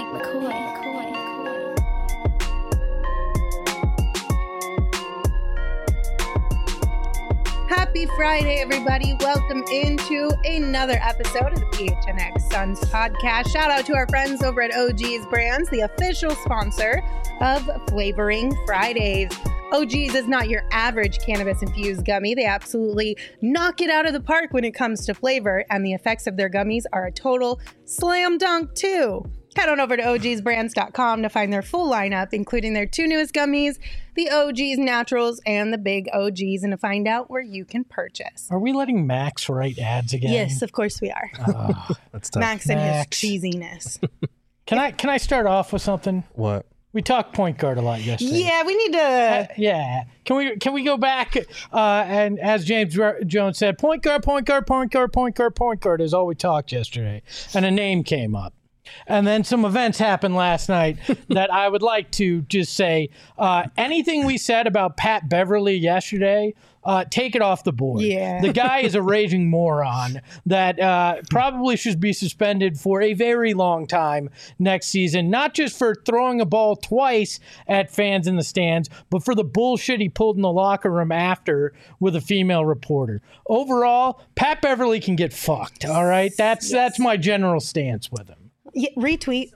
Happy Friday, everybody. Welcome into another episode of the PHNX Suns podcast. Shout out to our friends over at OG's Brands, the official sponsor of Flavoring Fridays. OG's is not your average cannabis-infused gummy. They absolutely knock it out of the park when it comes to flavor, and the effects of their gummies are a total slam dunk, too. Head on over to ogsbrands.com to find their full lineup, including their two newest gummies, the OG's Naturals and the Big OG's, and to find out where you can purchase. Are we letting Max write ads again? Yes, of course we are. That's tough. Max and his cheesiness. Can I start off with something? What? We talked point guard a lot yesterday. Yeah, we need to. Yeah. Can we go back and as James Jones said, point guard is all we talked yesterday, and a name came up. And then some events happened last night that I would like to just say, anything we said about Pat Beverly yesterday, take it off the board. Yeah. The guy is a raging moron that probably should be suspended for a very long time next season, not just for throwing a ball twice at fans in the stands, but for the bullshit he pulled in the locker room after with a female reporter. Overall, Pat Beverly can get fucked, all right? That's my general stance with him. Yeah, retweet.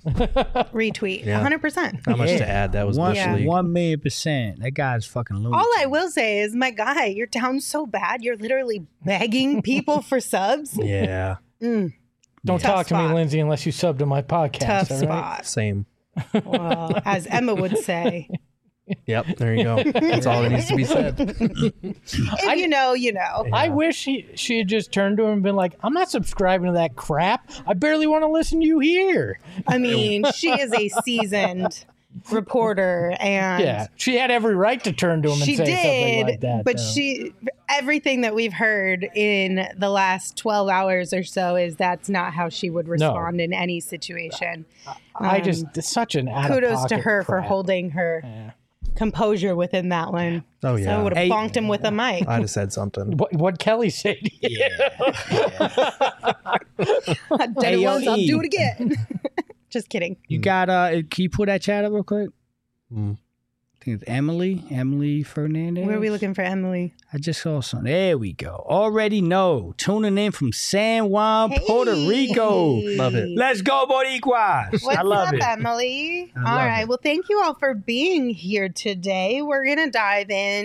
Yeah. 100%. Not much to add. That was Yeah. literally 1,000,000%. That guy's fucking lunatic. All I will say is, my guy, you're down so bad, you're literally begging people for subs. yeah, Don't Tough talk to me, spot. Lindsay, unless you sub to my podcast. Tough all right? spot. same. Well, as Emma would say, Yep, there you go. That's all that needs to be said. if you know, you know. I wish she had just turned to him and been like, I'm not subscribing to that crap. I barely want to listen to you here. I mean, she is a seasoned reporter, and Yeah, she had every right to turn to him and she say something did, like that. but though. everything that we've heard in the last 12 hours or so is that's not how she would respond in any situation. It's such an Kudos to her for crap. holding her composure within that one. Oh, yeah. So I would have Hey. bonked him with a mic. I'd have said something. What Kelly said. Yeah. I did Hey, it yo, once, I'll E. do it again. Just kidding. You got, can you pull that chat up real quick? Mm. I think it's Emily Fernandez. Where are we looking for Emily? I just saw some. There we go. Already know. Tuning in from San Juan, Puerto Rico. Love it. Let's go, Boricuas. What's I love up, it. Emily? I All love right. it. Well, thank you all for being here today. We're going to dive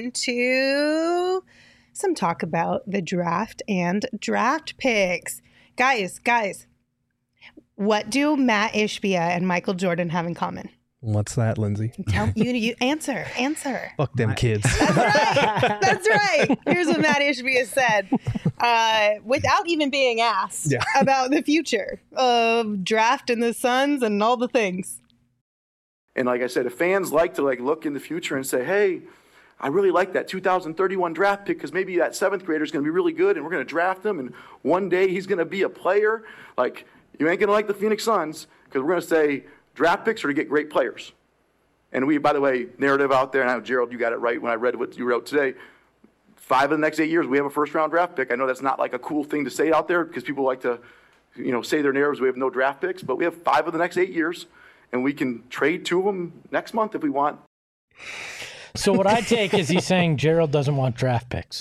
into some talk about the draft and draft picks. Guys, what do Matt Ishbia and Michael Jordan have in common? What's that, Lindsay? Tell you answer. Fuck them kids. That's right. Here's what Matt Ishbia said, without even being asked about the future of draft and the Suns and all the things. And like I said, if fans like to look in the future and say, hey, I really like that 2031 draft pick because maybe that seventh grader is going to be really good and we're going to draft him and one day he's going to be a player. You ain't going to like the Phoenix Suns because we're going to say draft picks are to get great players. And we, by the way, narrative out there, and I know, Gerald, you got it right when I read what you wrote today. 5 of the next 8 years, we have a first-round draft pick. I know that's not like a cool thing to say out there because people like to, say their narratives, we have no draft picks. But we have 5 of the next 8 years, and we can trade 2 of them next month if we want. So what I take is he's saying Gerald doesn't want draft picks.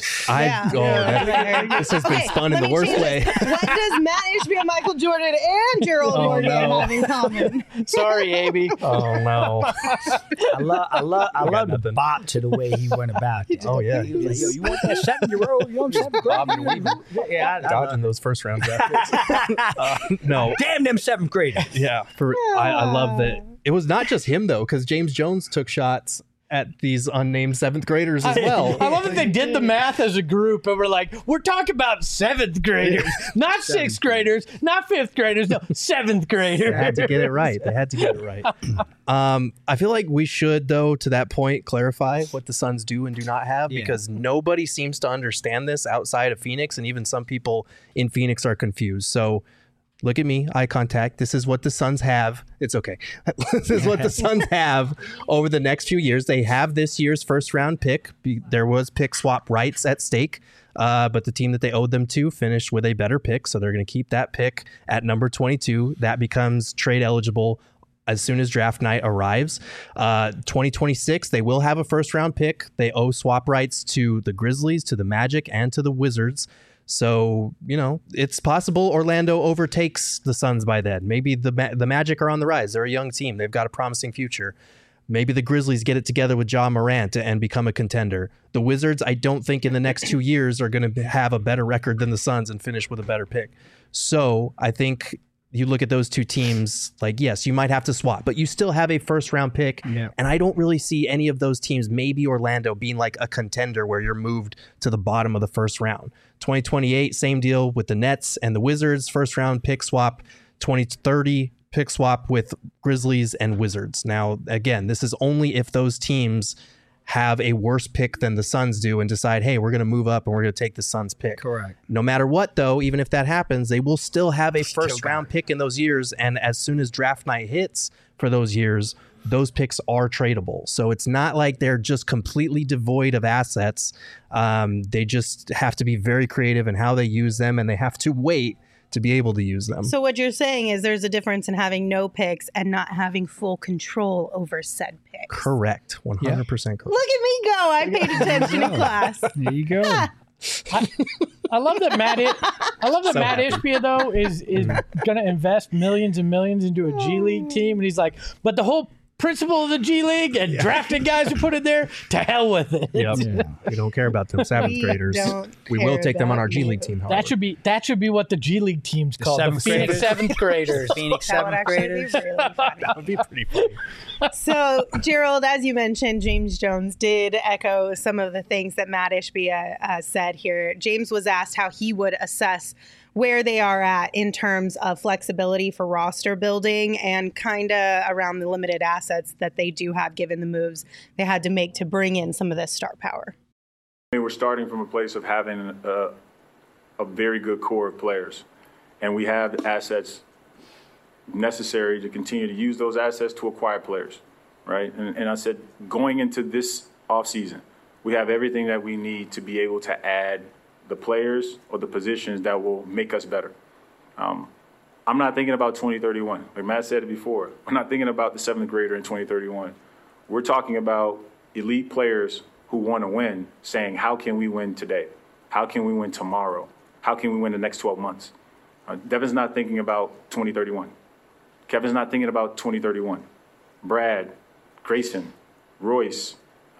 This has been spun in the worst way. What does Matt Ishbia, Michael Jordan, and Gerald Jordan have in common? Sorry, AB. Oh, no. I love the bop to the way he went about it. Oh, yeah. He was like, yo, you want that 7-year-old? You want 7th grade? Yeah, I Dodging those first-round draft picks. No. Damn them 7th graders. Yeah. I love that. It was not just him, though, because James Jones took shots at these unnamed 7th graders as well. I love that they did the math as a group and we're like, we're talking about 7th graders, not 6th graders, not 5th graders, no, 7th graders. They had to get it right. I feel like we should, though, to that point, clarify what the Suns do and do not have because nobody seems to understand this outside of Phoenix, and even some people in Phoenix are confused. So look at me, eye contact. This is what the Suns have. It's okay. This is what the Suns have over the next few years. They have this year's first round pick. There was pick swap rights at stake, but the team that they owed them to finished with a better pick. So they're going to keep that pick at number 22. That becomes trade eligible as soon as draft night arrives. 2026, they will have a first round pick. They owe swap rights to the Grizzlies, to the Magic, and to the Wizards. So, it's possible Orlando overtakes the Suns by then. Maybe the Magic are on the rise. They're a young team. They've got a promising future. Maybe the Grizzlies get it together with Ja Morant and become a contender. The Wizards, I don't think in the next 2 years are going to have a better record than the Suns and finish with a better pick. So I think you look at those two teams, like, yes, you might have to swap, but you still have a first round pick. Yeah. And I don't really see any of those teams, maybe Orlando, being like a contender where you're moved to the bottom of the first round. 2028, same deal with the Nets and the Wizards, first round pick swap. 2030 pick swap with Grizzlies and Wizards. Now, again, this is only if those teams have a worse pick than the Suns do and decide, hey, we're going to move up and we're going to take the Suns pick. Correct. No matter what, though, even if that happens, they will still have a first round pick in those years. And as soon as draft night hits for those years, those picks are tradable. So it's not like they're just completely devoid of assets. They just have to be very creative in how they use them, and they have to wait to be able to use them. So what you're saying is there's a difference in having no picks and not having full control over said picks. Correct. 100% correct. Look at me go. I paid attention in class. There you go. I love that Matt Ishbia though is going to invest millions and millions into a G League team, and he's like, but the whole principle of the G League and drafting guys who put it there, to hell with it. Yep. Yeah. We don't care about them seventh graders. We will take them on our G League team. However. That should be what the G League team's called. The Phoenix seventh graders. Phoenix seventh graders. Really that would be pretty funny. So, Gerald, as you mentioned, James Jones did echo some of the things that Matt Ishbia said here. James was asked how he would assess where they are at in terms of flexibility for roster building and kind of around the limited assets that they do have given the moves they had to make to bring in some of this star power. I mean, we're starting from a place of having a very good core of players, and we have the assets necessary to continue to use those assets to acquire players, right? And I said, going into this offseason, we have everything that we need to be able to add the players or the positions that will make us better. I'm not thinking about 2031. Like Matt said it before, we're not thinking about the seventh grader in 2031. We're talking about elite players who want to win, saying, how can we win today? How can we win tomorrow? How can we win the next 12 months? Devin's not thinking about 2031. Kevin's not thinking about 2031. Brad, Grayson, Royce,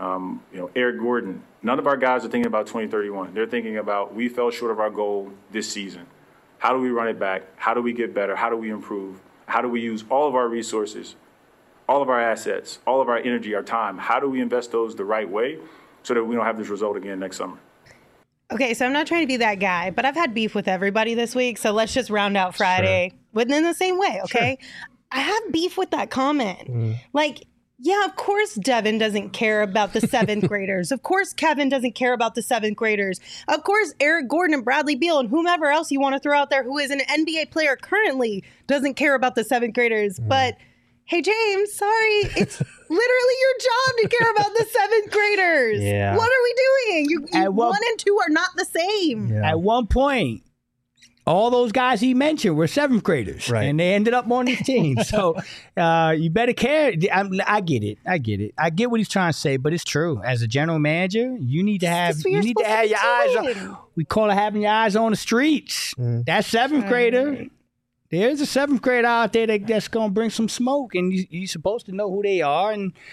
Eric Gordon, none of our guys are thinking about 2031. They're thinking about, we fell short of our goal this season. How do we run it back? How do we get better? How do we improve? How do we use all of our resources, all of our assets, all of our energy, our time? How do we invest those the right way so that we don't have this result again next summer? Okay, so I'm not trying to be that guy, but I've had beef with everybody this week, so let's just round out Friday within the same way, okay? Sure. I have beef with that comment. Yeah, of course Devin doesn't care about the seventh graders. Of course Kevin doesn't care about the seventh graders. Of course Eric Gordon and Bradley Beal and whomever else you want to throw out there who is an NBA player currently doesn't care about the seventh graders. But hey, James, sorry, it's literally your job to care about the seventh graders. Yeah. What are we doing? You 1 and 2 are not the same. Yeah. At one point, all those guys he mentioned were seventh graders, and they ended up on his team. So you better care. I get it. I get what he's trying to say, but it's true. As a general manager, you need to have your eyes on. We call it having your eyes on the streets. That seventh grader. There's a seventh grader out there that's going to bring some smoke, and you're supposed to know who they are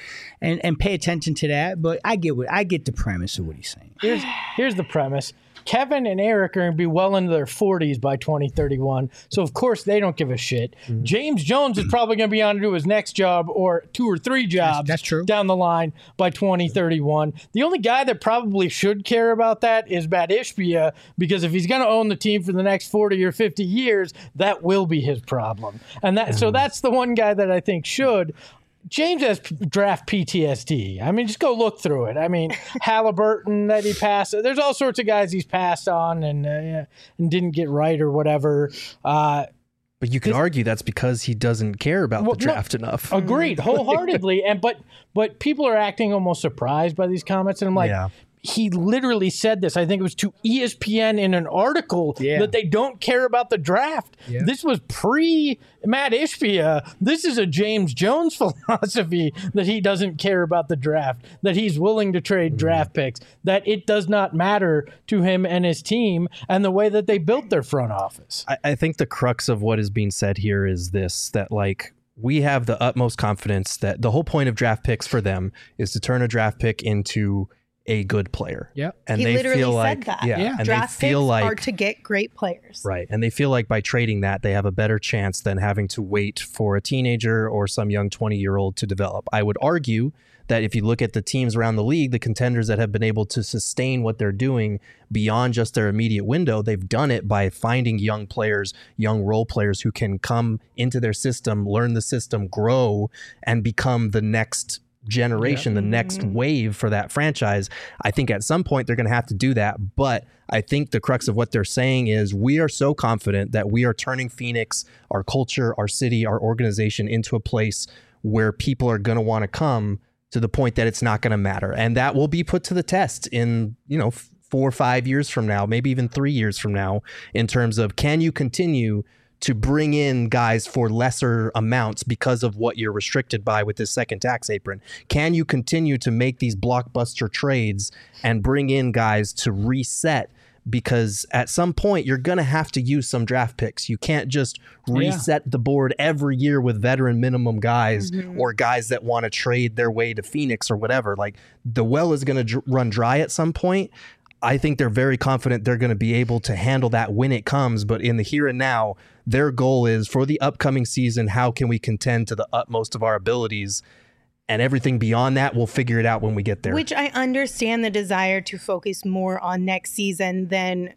and pay attention to that. But I get the premise of what he's saying. Here's the premise. Kevin and Eric are going to be well into their 40s by 2031. So, of course, they don't give a shit. James Jones is probably going to be on to his next job or 2 or 3 jobs that's true. Down the line by 2031. The only guy that probably should care about that is Matt Ishbia, because if he's going to own the team for the next 40 or 50 years, that will be his problem. And so that's the one guy that I think should. James has draft PTSD. I mean, just go look through it. I mean, Halliburton that he passed. There's all sorts of guys he's passed on and didn't get right or whatever. But you could argue that's because he doesn't care about the draft enough. Agreed, wholeheartedly. But people are acting almost surprised by these comments, and I'm like, he literally said this, I think it was to ESPN in an article, that they don't care about the draft. Yeah. This was pre-Matt Ishbia. This is a James Jones philosophy that he doesn't care about the draft, that he's willing to trade draft picks, that it does not matter to him and his team and the way that they built their front office. I think the crux of what is being said here is this, that like, we have the utmost confidence that the whole point of draft picks for them is to turn a draft pick into a good player. Yeah. And he they literally feel said like that. and draft they feel picks like are to get great players. Right. And they feel like by trading that they have a better chance than having to wait for a teenager or some young 20-year-old to develop. I would argue that if you look at the teams around the league, the contenders that have been able to sustain what they're doing beyond just their immediate window, they've done it by finding young players, young role players who can come into their system, learn the system, grow, and become the next generation, the next wave for that franchise. I think at some point they're going to have to do that. But I think the crux of what they're saying is we are so confident that we are turning Phoenix, our culture, our city, our organization into a place where people are going to want to come, to the point that it's not going to matter. And that will be put to the test in, 4 or 5 years from now, maybe even 3 years from now, in terms of, can you continue to bring in guys for lesser amounts because of what you're restricted by with this second tax apron? Can you continue to make these blockbuster trades and bring in guys to reset? Because at some point you're going to have to use some draft picks. You can't just reset the board every year with veteran minimum guys or guys that want to trade their way to Phoenix or whatever. Like, the well is going to run dry at some point. I think they're very confident they're going to be able to handle that when it comes. But in the here and now, their goal is for the upcoming season, how can we contend to the utmost of our abilities? And everything beyond that, we'll figure it out when we get there. Which I understand the desire to focus more on next season than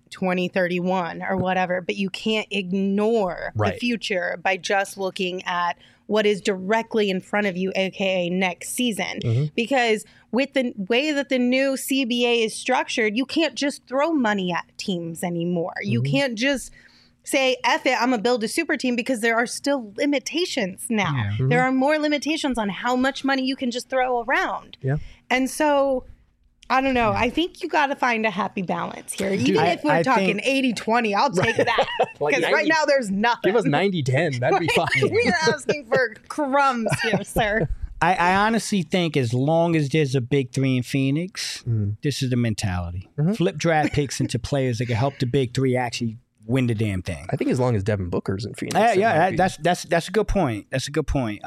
2031 or whatever. But you can't ignore the future by just looking at what is directly in front of you, aka next season. Because with the way that the new CBA is structured, you can't just throw money at teams anymore. You can't just say, F it, I'm going to build a super team, because there are still limitations now. There are more limitations on how much money you can just throw around. And so, I don't know. I think you got to find a happy balance here. Even if we're talking 80-20, I'll take that. Because right now there's nothing. Give us 90-10. That'd be fine. We are asking for crumbs here, sir. I honestly think as long as there's a big three in Phoenix, this is the mentality. Flip draft picks into players that can help the big three actually win the damn thing. I think as long as Devin Booker's in Phoenix. That's a good point. That's a good point.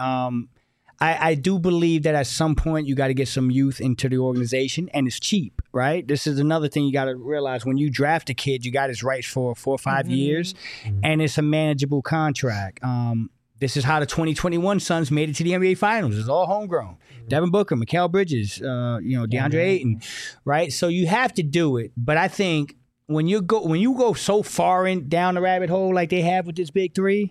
I do believe that at some point you got to get some youth into the organization, and it's cheap, right? This is another thing you got to realize. When you draft a kid, you got his rights for 4 or 5 years, and it's a manageable contract. This is how the 2021 Suns made it to the NBA Finals. It's all homegrown. Devin Booker, Mikal Bridges, DeAndre Ayton, right? So you have to do it. But I think when you go so far down the rabbit hole like they have with this big three,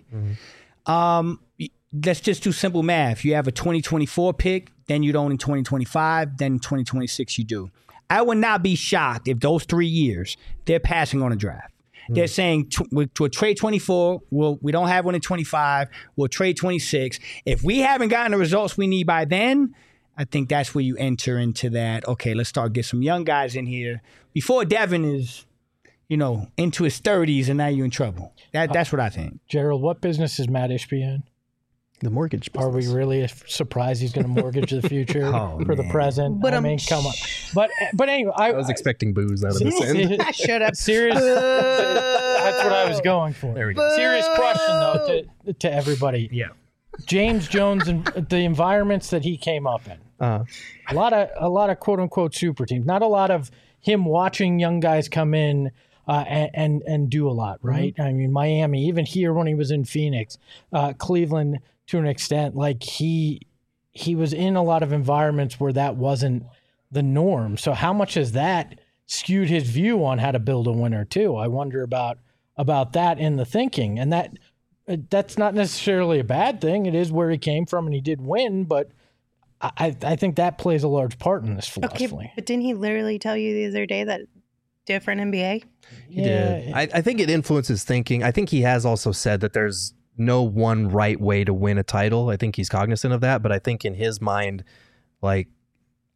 let's just do simple math. You have a 2024 pick, then you don't in 2025, then in 2026 you do. I would not be shocked if those 3 years they're passing on a draft. They're saying we'll trade 24. We don't have one in 25. We'll trade 26. If we haven't gotten the results we need by then, I think that's where you enter into that. Okay, let's start get some young guys in here before Devin is, into his 30s, and now you're in trouble. That's what I think. Gerald, what business is Matt Ishbia in? The mortgage business. Are we really surprised he's going to mortgge the future for the present? But I mean, come on. But anyway, I was expecting booze out of this end. I should have. Serious. That's what I was going for. There we go. Serious question though to everybody. Yeah. James Jones and the environments that he came up in. A lot of quote unquote super teams. Not a lot of him watching young guys come in. And do a lot, right? I mean, Miami, even here when he was in Phoenix, Cleveland to an extent, like he was in a lot of environments where that wasn't the norm. So how much has that skewed his view on how to build a winner too? I wonder about that in the thinking, and that's not necessarily a bad thing. It is where he came from, and he did win, but I think that plays a large part in this philosophy. Okay, but didn't he literally tell you the other day that different NBA? He did. I think it influences thinking. I think he has also said that there's no one right way to win a title. I think he's cognizant of that, but I think in his mind, like,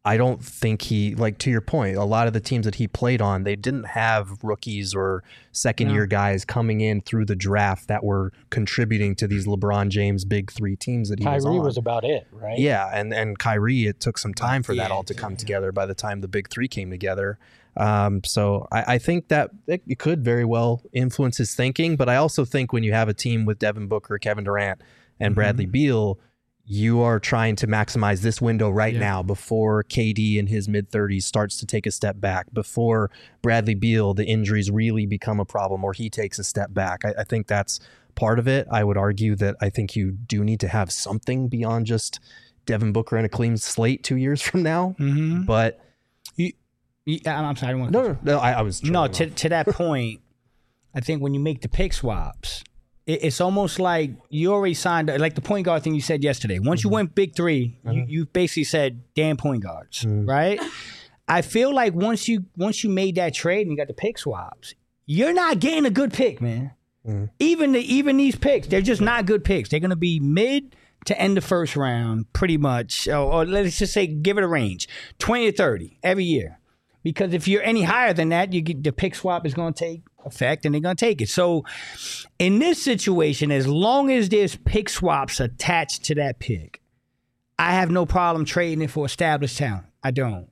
I don't think he, like, to your point, a lot of the teams that he played on, they didn't have rookies or second-year guys coming in through the draft that were contributing to these LeBron James big three teams that he was on. Kyrie was about it, right? Yeah, and Kyrie, it took some time for that all to come together by the time the big three came together. So I think that it could very well influence his thinking, but I also think when you have a team with Devin Booker, Kevin Durant, and Bradley Beal, you are trying to maximize this window right now before KD in his mid-30s starts to take a step back, before Bradley Beal, the injuries really become a problem or he takes a step back. I think that's part of it. I would argue that I think you do need to have something beyond just Devin Booker and a clean slate 2 years from now. But I'm sorry. I was to that point, I think when you make the pick swaps, it's almost like you already signed, like the point guard thing you said yesterday. Once you went big three, you basically said damn point guards, right? I feel like once you made that trade and you got the pick swaps, you're not getting a good pick, man. Even these picks, they're just not good picks. They're going to be mid to end the first round, pretty much, or let's just say give it a range, 20 to 30 every year. Because if you're any higher than that, you get the pick swap is going to take effect and they're going to take it. So in this situation, as long as there's pick swaps attached to that pick, I have no problem trading it for established talent. I don't.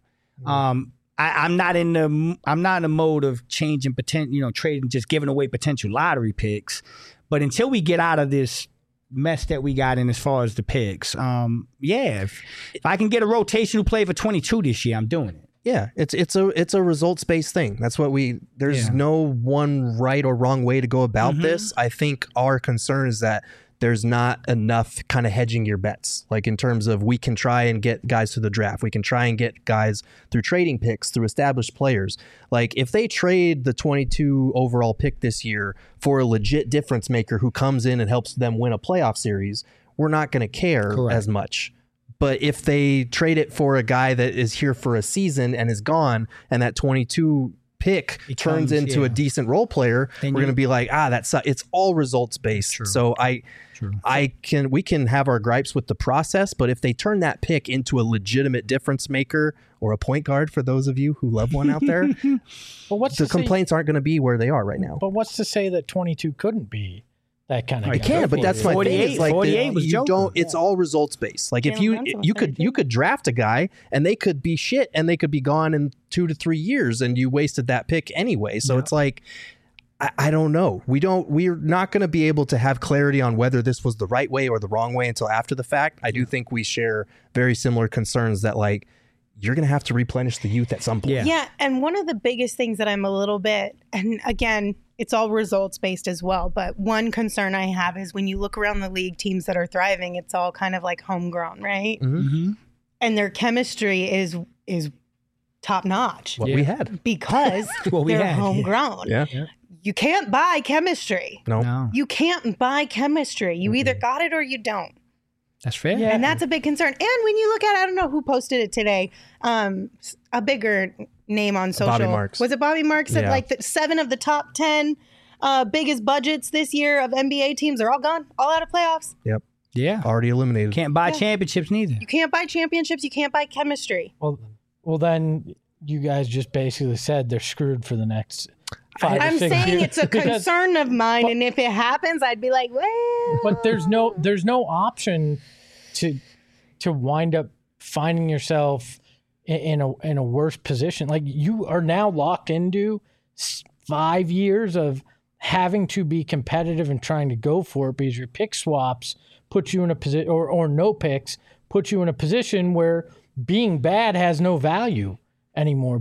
I'm not in the mode of changing potential, trading, just giving away potential lottery picks. But until we get out of this mess that we got in as far as the picks, if I can get a rotational play for 22 this year, I'm doing it. Yeah, it's a results based thing. That's what there's no one right or wrong way to go about this. I think our concern is that there's not enough kind of hedging your bets. Like in terms of we can try and get guys through the draft. We can try and get guys through trading picks, through established players. Like if they trade the 22 overall pick this year for a legit difference maker who comes in and helps them win a playoff series, we're not going to care as much. But if they trade it for a guy that is here for a season and is gone, and that 22 pick turns into a decent role player, we're going to be like, it's all results based. True. So we can have our gripes with the process, but if they turn that pick into a legitimate difference maker or a point guard, for those of you who love one out there, the complaints aren't going to be where they are right now. But what's to say that 22 couldn't be that kind of it can, but that's my 48, thing. It's like 48 was you don't. It's all results based. Like if you could draft a guy and they could be shit and they could be gone in 2 to 3 years and you wasted that pick anyway. So it's like I don't know. We're not going to be able to have clarity on whether this was the right way or the wrong way until after the fact. I do think we share very similar concerns that like you're going to have to replenish the youth at some point. Yeah, and one of the biggest things that I'm a little bit, and again, it's all results based as well, but one concern I have is when you look around the league, teams that are thriving, it's all kind of like homegrown, right? And their chemistry is top notch. What we had. Because they're homegrown. Yeah. You can't buy chemistry. No. You can't buy chemistry. You either got it or you don't. That's fair. Yeah. And that's a big concern. And when you look at, I don't know who posted it today, a bigger name on social. Bobby Marks. Was it Bobby Marks? Said like 7 of the top 10 biggest budgets this year of NBA teams are all gone, all out of playoffs. Yep. Yeah. Already eliminated. Can't buy championships neither. You can't buy championships. You can't buy chemistry. Well, then you guys just basically said they're screwed for the next 5 I'm to 6 saying years. it's a concern of mine, and if it happens, I'd be like, well. But there's no option to wind up finding yourself in a worse position. Like you are now locked into 5 years of having to be competitive and trying to go for it because your pick swaps put you in a position, or no picks put you in a position where being bad has no value anymore.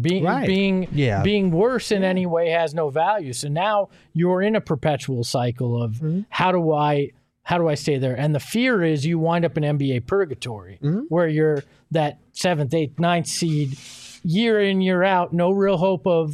Being worse in any way has no value. So now you're in a perpetual cycle of how do I stay there? And the fear is you wind up in NBA purgatory where you're that 7th, 8th, 9th seed year in, year out, no real hope of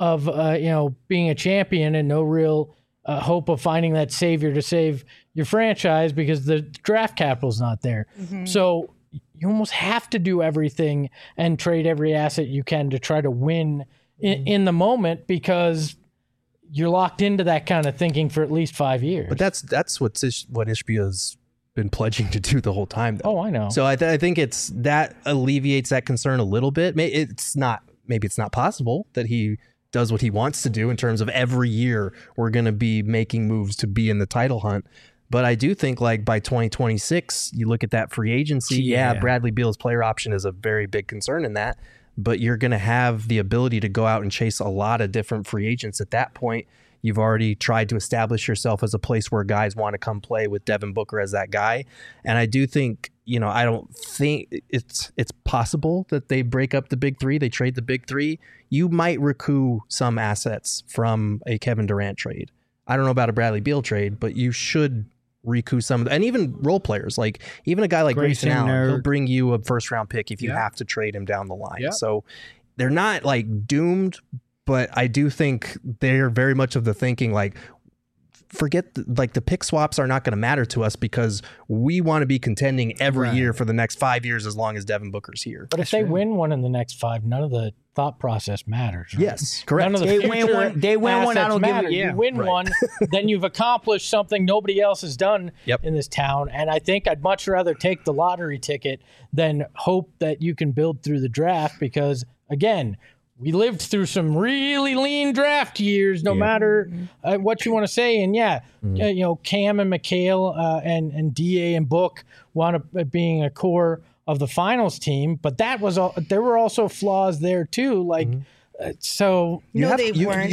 being a champion and no real hope of finding that savior to save your franchise because the draft capital's not there. So you almost have to do everything and trade every asset you can to try to win in the moment because you're locked into that kind of thinking for at least 5 years. But that's what Ishbia's been pledging to do the whole time, though. Oh, I know. So I think it's that alleviates that concern a little bit. Maybe it's not possible that he does what he wants to do in terms of every year we're going to be making moves to be in the title hunt. But I do think like by 2026, you look at that free agency. Yeah, Bradley Beal's player option is a very big concern in that. But you're going to have the ability to go out and chase a lot of different free agents at that point. You've already tried to establish yourself as a place where guys want to come play with Devin Booker as that guy. And I do think, I don't think it's possible that they break up the big three. They trade the big three. You might recoup some assets from a Kevin Durant trade. I don't know about a Bradley Beal trade, but you should recoup some of and even role players, like even a guy like Grayson Allen, he'll bring you a first round pick if you have to trade him down the line. So they're not like doomed, but I do think they're very much of the thinking like, forget the pick swaps are not going to matter to us because we want to be contending every year for the next 5 years as long as Devin Booker's here. But if they win one in the next 5, none of the thought process matters. Right? Yes, correct. None of the they win one. I don't matter. You win one, then you've accomplished something nobody else has done in this town. And I think I'd much rather take the lottery ticket than hope that you can build through the draft because, again, we lived through some really lean draft years, no matter what you want to say. And Cam and McHale and DA and Book wound up being a core of the finals team, but there were also flaws there too. Like, so you have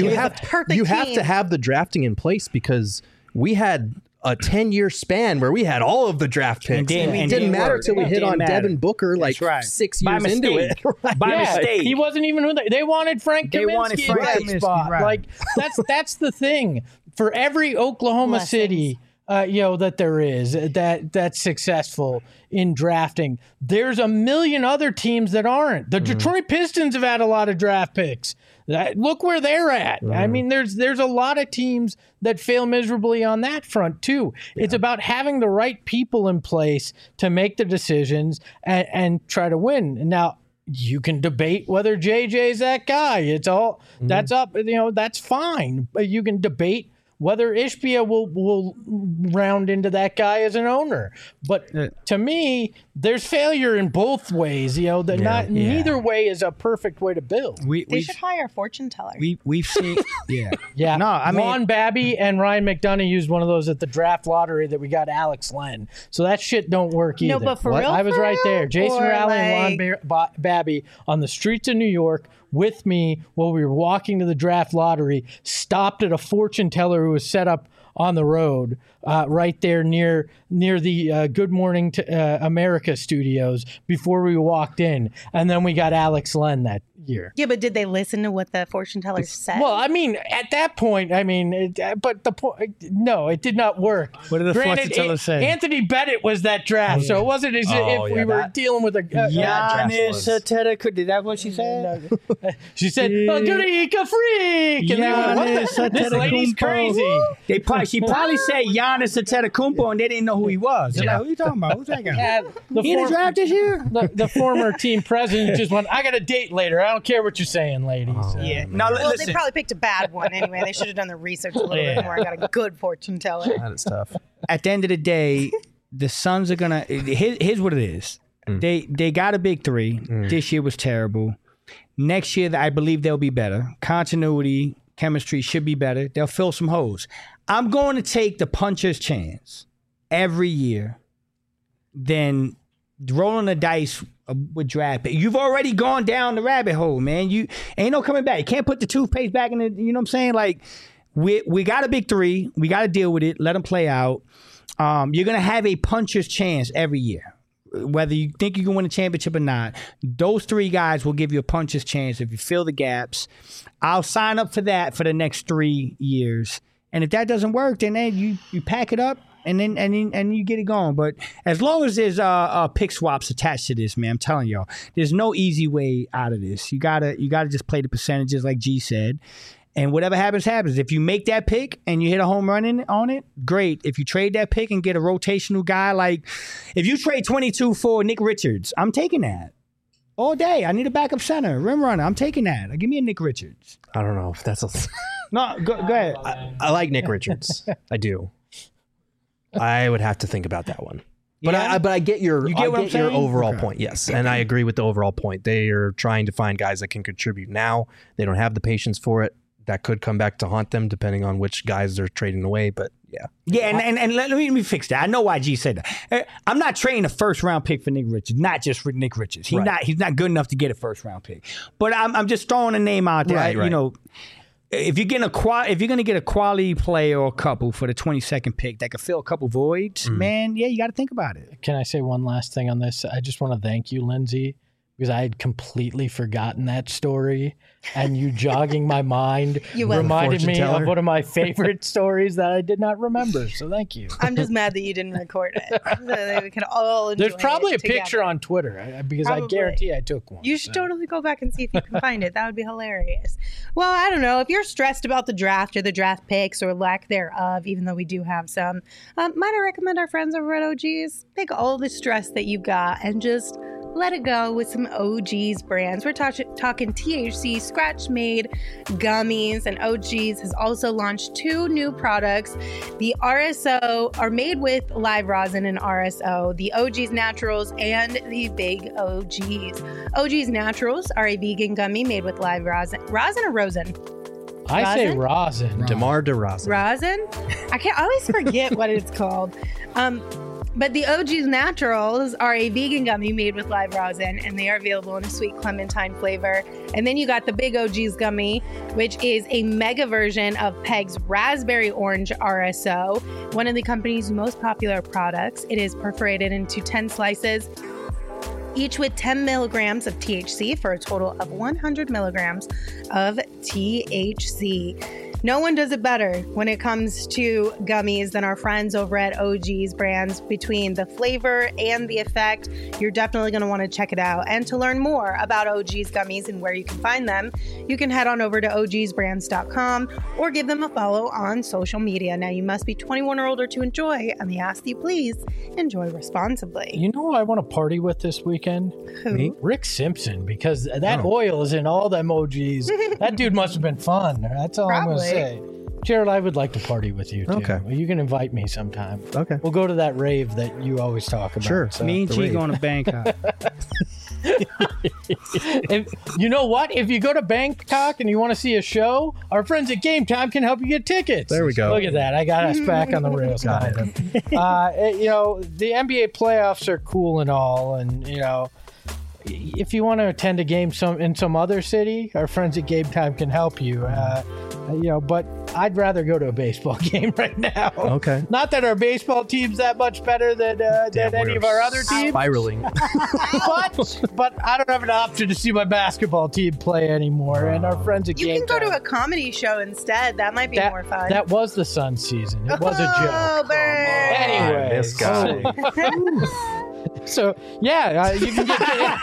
to have the drafting in place because we had a 10-year span where we had all of the draft picks. And it didn't matter until we hit on Devin Booker 6 years into it. By mistake. He wasn't even who they wanted Frank Kaminsky in that spot. Right. Like that's the thing. For every Oklahoma City that there is that's successful in drafting, there's a million other teams that aren't. The Detroit Pistons have had a lot of draft picks. Look where they're at. I mean, there's a lot of teams that fail miserably on that front too. It's about having the right people in place to make the decisions and try to win. Now, you can debate whether JJ's that guy. It's all that's up. That's fine. But you can debate whether Ishbia will round into that guy as an owner. But to me, there's failure in both ways. Neither way is a perfect way to build. They should hire a fortune teller. We've seen, yeah. No, I mean, Juan Babby and Ryan McDonough used one of those at the draft lottery that we got Alex Len. So that shit don't work either. No, but for real, I was right there. Jason Rowley and Juan Babby on the streets of New York with me while we were walking to the draft lottery, stopped at a fortune teller who was set up on the road right there near the Good Morning to America studios before we walked in. And then we got Alex Len that year. Yeah, but did they listen to what the fortune teller said? Well, I mean, at that point, but the point, no, it did not work. What did the fortune teller say? Anthony Bennett was that draft, so it wasn't as if we were dealing with a Giannis Antetokounmpo. Did that what she said? She said, "Greek freak," and this lady's crazy. She probably said Giannis Antetokounmpo, and they didn't know who he was. They're like, "Who are you talking about? Who's that guy? He in the draft this year?" The former team president just went, "I got a date later. I don't care what you're saying, ladies." They probably picked a bad one anyway. They should have done the research a little bit more and got a good fortune teller. That is tough. At the end of the day, the Suns are gonna. Here's what it is. They got a big three. This year was terrible. Next year, I believe they'll be better. Continuity, chemistry should be better. They'll fill some holes. I'm going to take the puncher's chance every year than rolling the dice with draft pick. You've already gone down the rabbit hole, man. You ain't no coming back. You can't put the toothpaste back in the, you know what I'm saying? Like, we got a big three. We got to deal with it. Let them play out. You're going to have a puncher's chance every year. Whether you think you can win a championship or not, those three guys will give you a puncher's chance if you fill the gaps. I'll sign up for that for the next 3 years. And if that doesn't work, then you pack it up and then you get it going. But as long as there's pick swaps attached to this, man, I'm telling y'all, there's no easy way out of this. You gotta just play the percentages like G said. And whatever happens, happens. If you make that pick and you hit a home run on it, great. If you trade that pick and get a rotational guy, like if you trade 22 for Nick Richards, I'm taking that all day. I need a backup center, rim runner. I'm taking that. Give me a Nick Richards. I don't know if that's a... No, go ahead. I like Nick Richards. I do. I would have to think about that one. But Yeah? I get your You get what I'm your saying? overall Okay. point. Yes, and I agree with the overall point. They are trying to find guys that can contribute now. They don't have the patience for it. That could come back to haunt them depending on which guys they're trading away. But yeah. Yeah, and let me fix that. I know why G said that. I'm not trading a first round pick for Nick Richards, not just for Nick Richards. He's not good enough to get a first round pick. But I'm just throwing a name out there. Right. You know, if you're going to get a quality player or a couple for the 22nd pick that could fill a couple voids, man, yeah, you got to think about it. Can I say one last thing on this? I just want to thank you, Lindsay, because I had completely forgotten that story, and you jogging my mind reminded me of one of my favorite stories that I did not remember. So thank you. I'm just mad that you didn't record it. So that we can all enjoy There's probably a it together. picture on Twitter because I Probably. guarantee I took one. You should totally go back and see if you can find it. That would be hilarious. Well, I don't know. If you're stressed about the draft or the draft picks or lack thereof, even though we do have some, might I recommend our friends over at OGs? Take all the stress that you've got and just let it go with some OGs brands. We're talking THC scratch-made gummies, and OGs has also launched 2 new products. The RSO are made with live rosin and RSO, the OGs Naturals and the Big OGs. OGs Naturals are a vegan gummy made with live rosin. Rosin or rosin? I say rosin. DeMar DeRozan. Rosin? I always forget what it's called. But the OGs Naturals are a vegan gummy made with live rosin, and they are available in a sweet clementine flavor. And then you got the Big OGs gummy, which is a mega version of Peg's Raspberry Orange RSO, one of the company's most popular products. It is perforated into 10 slices, each with 10 milligrams of THC for a total of 100 milligrams of THC. No one does it better when it comes to gummies than our friends over at OG's brands. Between the flavor and the effect, you're definitely going to want to check it out. And to learn more about OG's gummies and where you can find them, you can head on over to ogsbrands.com or give them a follow on social media. Now, you must be 21 or older to enjoy, and we ask that you please enjoy responsibly. You know who I want to party with this weekend? Who? Me? Rick Simpson, because that oil is in all them OGs. That dude must have been fun. That's all I'm going to say. Jared, I would like to party with you too. Okay. Well, you can invite me sometime. Okay. We'll go to that rave that you always talk about. Sure. So. Me and the G rave. going to Bangkok. You know what? If you go to Bangkok and you want to see a show, our friends at Game Time can help you get tickets. There we go. Look at that. I got us back on the rails. Got You know, the NBA playoffs are cool and all. And, you know, if you want to attend a game in some other city, our friends at Game Time can help you. You know, but I'd rather go to a baseball game right now. Okay. Not that our baseball team's that much better than any of our other teams. Spiraling. but I don't have an option to see my basketball team play anymore. And our friends at You Game can go Time, to a comedy show instead. That might be more fun. That was the Suns season. It was a Oh, joke. burn. Anyway, This guy. So yeah, you can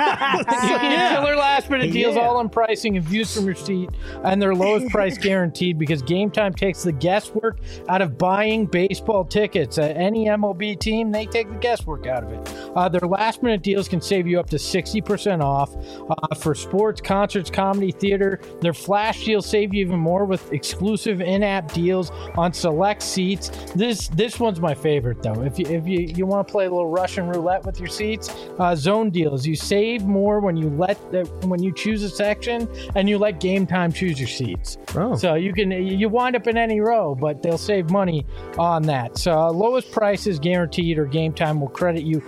get killer last minute deals, all on pricing and views from your seat, and their lowest price guaranteed, because Game Time takes the guesswork out of buying baseball tickets. Any MLB team, they take the guesswork out of it. Their last minute deals can save you up to 60% off for sports, concerts, comedy, theater. Their flash deals save you even more with exclusive in-app deals on select seats. This one's my favorite though. If you want to play a little Russian roulette with your seats, zone deals. You save more when you choose a section and you let Game Time choose your seats. Oh. So you wind up in any row, but they'll save money on that. So lowest price is guaranteed, or Game Time will credit you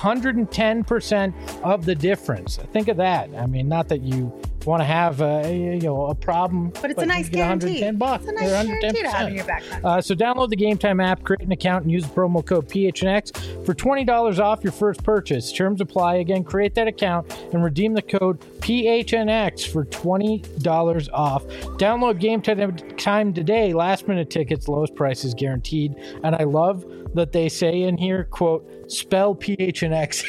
110% of the difference. Think of that. I mean, not that you want to have a problem, But it's a nice you get guarantee. $110. It's a nice guarantee to have in your back pocket. So download the Game Time app, create an account, and use the promo code PHNX for $20 off your first purchase. Terms apply. Again, create that account and redeem the code PHNX for $20 off. Download Game Time today. Last minute tickets, lowest prices guaranteed. And I love that they say in here, quote, spell PHNX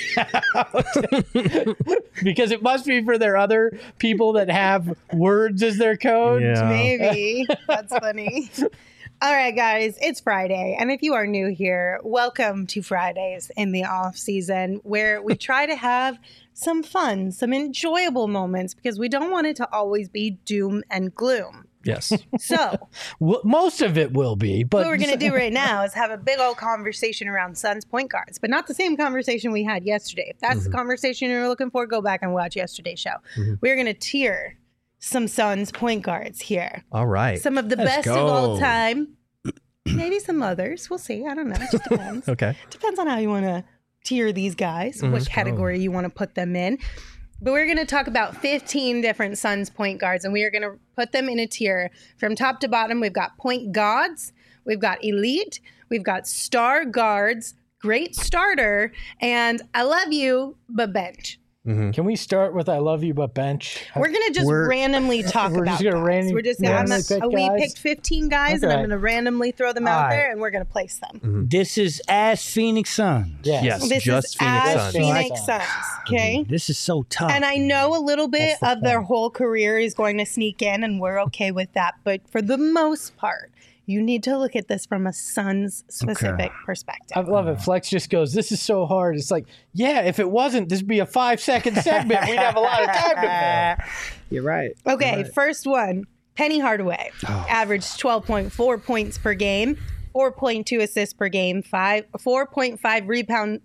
out. Because it must be for their other people that have words as their code. Yeah. Maybe. That's funny. All right, guys, it's Friday. And if you are new here, welcome to Fridays in the off season, where we try to have some fun, some enjoyable moments, because we don't want it to always be doom and gloom. Yes. So most of it will be, but what we're going to do right now is have a big old conversation around Suns point guards, but not the same conversation we had yesterday. If that's the conversation you're looking for, go back and watch yesterday's show. We're going to tier some Suns point guards here. All right. Some of the best of all time. Maybe some others. We'll see. I don't know. It just depends. Okay. Depends on how you want to tier these guys, what category you want to put them in. But we're going to talk about 15 different Suns point guards, and we are going to put them in a tier from top to bottom. We've got point gods, we've got elite, we've got star guards, great starter, and I love you, but bench. Can we start with I love you, but bench? We're going to just randomly talk We're about just gonna guys. We're just randomly pick we guys? picked 15 guys, and I'm going to randomly throw them out there, and we're going to place them. This is as Phoenix Suns. Yes, This just is Phoenix as Suns. Phoenix Suns, okay? This is so tough. And I know a little bit of their whole career is going to sneak in, and we're okay with that. But for the most part, you need to look at this from a Suns specific perspective. I love it. Flex just goes, this is so hard. It's like, yeah, if it wasn't, this would be a 5-second segment. We'd have a lot of time to fill. You're right. Okay, first one, Penny Hardaway. Averaged 12.4 points per game, 4.2 assists per game, 4.5 rebound.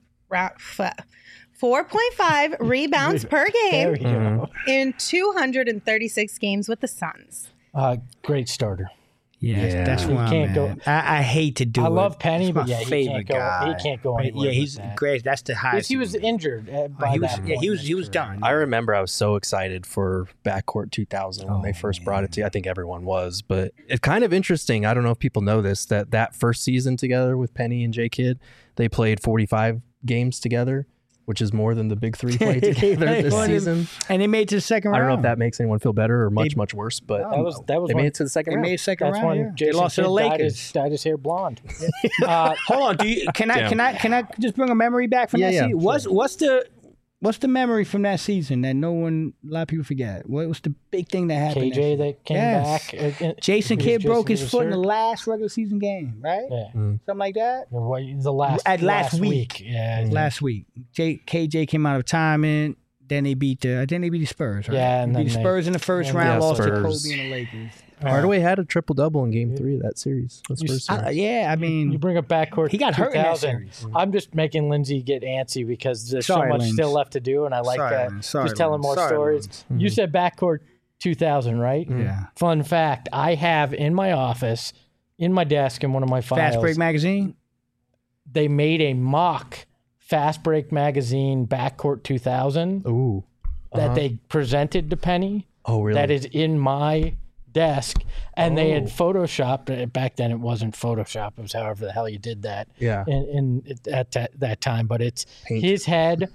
4.5 rebounds per There game you go. in 236 games with the Suns. Great starter. Yeah, that's He why can't go- I hate to do it. I love Penny, He's but my yeah, he favorite can't go. guy. He can't go anywhere. Yeah, he's with that. great. That's the highest. Because he was injured by that point. he was done. I remember I was so excited for Backcourt 2000 when they first brought it to. I think everyone was, but it's kind of interesting. I don't know if people know this, that first season together with Penny and J Kidd, they played 45 games together, which is more than the big three played together this season. And they made it to the second round. I don't know if that makes anyone feel better or much worse, but that was they when, made it to the second They round. made second that's round. when Yeah. Jason They lost to the Kidd Lakers. dyed his hair blonde. Hold on. Can I just bring a memory back from that Yeah, season? What's the memory from that season that a lot of people forget? What was the big thing that happened? KJ that came back. Jason Who's Kidd broke Jason his foot in the Kidd? last regular season game, right? Yeah. Something like that. The last week. Yeah. Last week, KJ came out of retirement. Then they beat the Spurs, right? Yeah, and beat the then Spurs in the first round, lost to Spurs. Kobe and the Lakers. Hardaway had a triple-double in Game 3 of that series. That's first series. Yeah, I mean, You bring up backcourt. He got hurt in that 2000. series. I'm just making Lindsay get antsy because there's Sorry, so much Linz. still left to do, and I like Sorry, that. Linz. Sorry, Just telling Linz. more Sorry, stories. Linz. You said backcourt 2000, right? Yeah. Fun fact: I have in my office, in my desk, in one of my files. Fast Break magazine. They made a mock Fast Break magazine backcourt 2000 Ooh. that they presented to Penny. Oh, really? That is in my desk, and they had photoshopped it. Back then it wasn't Photoshop, it was however the hell you did that Yeah. at that time, but it's Paint. his head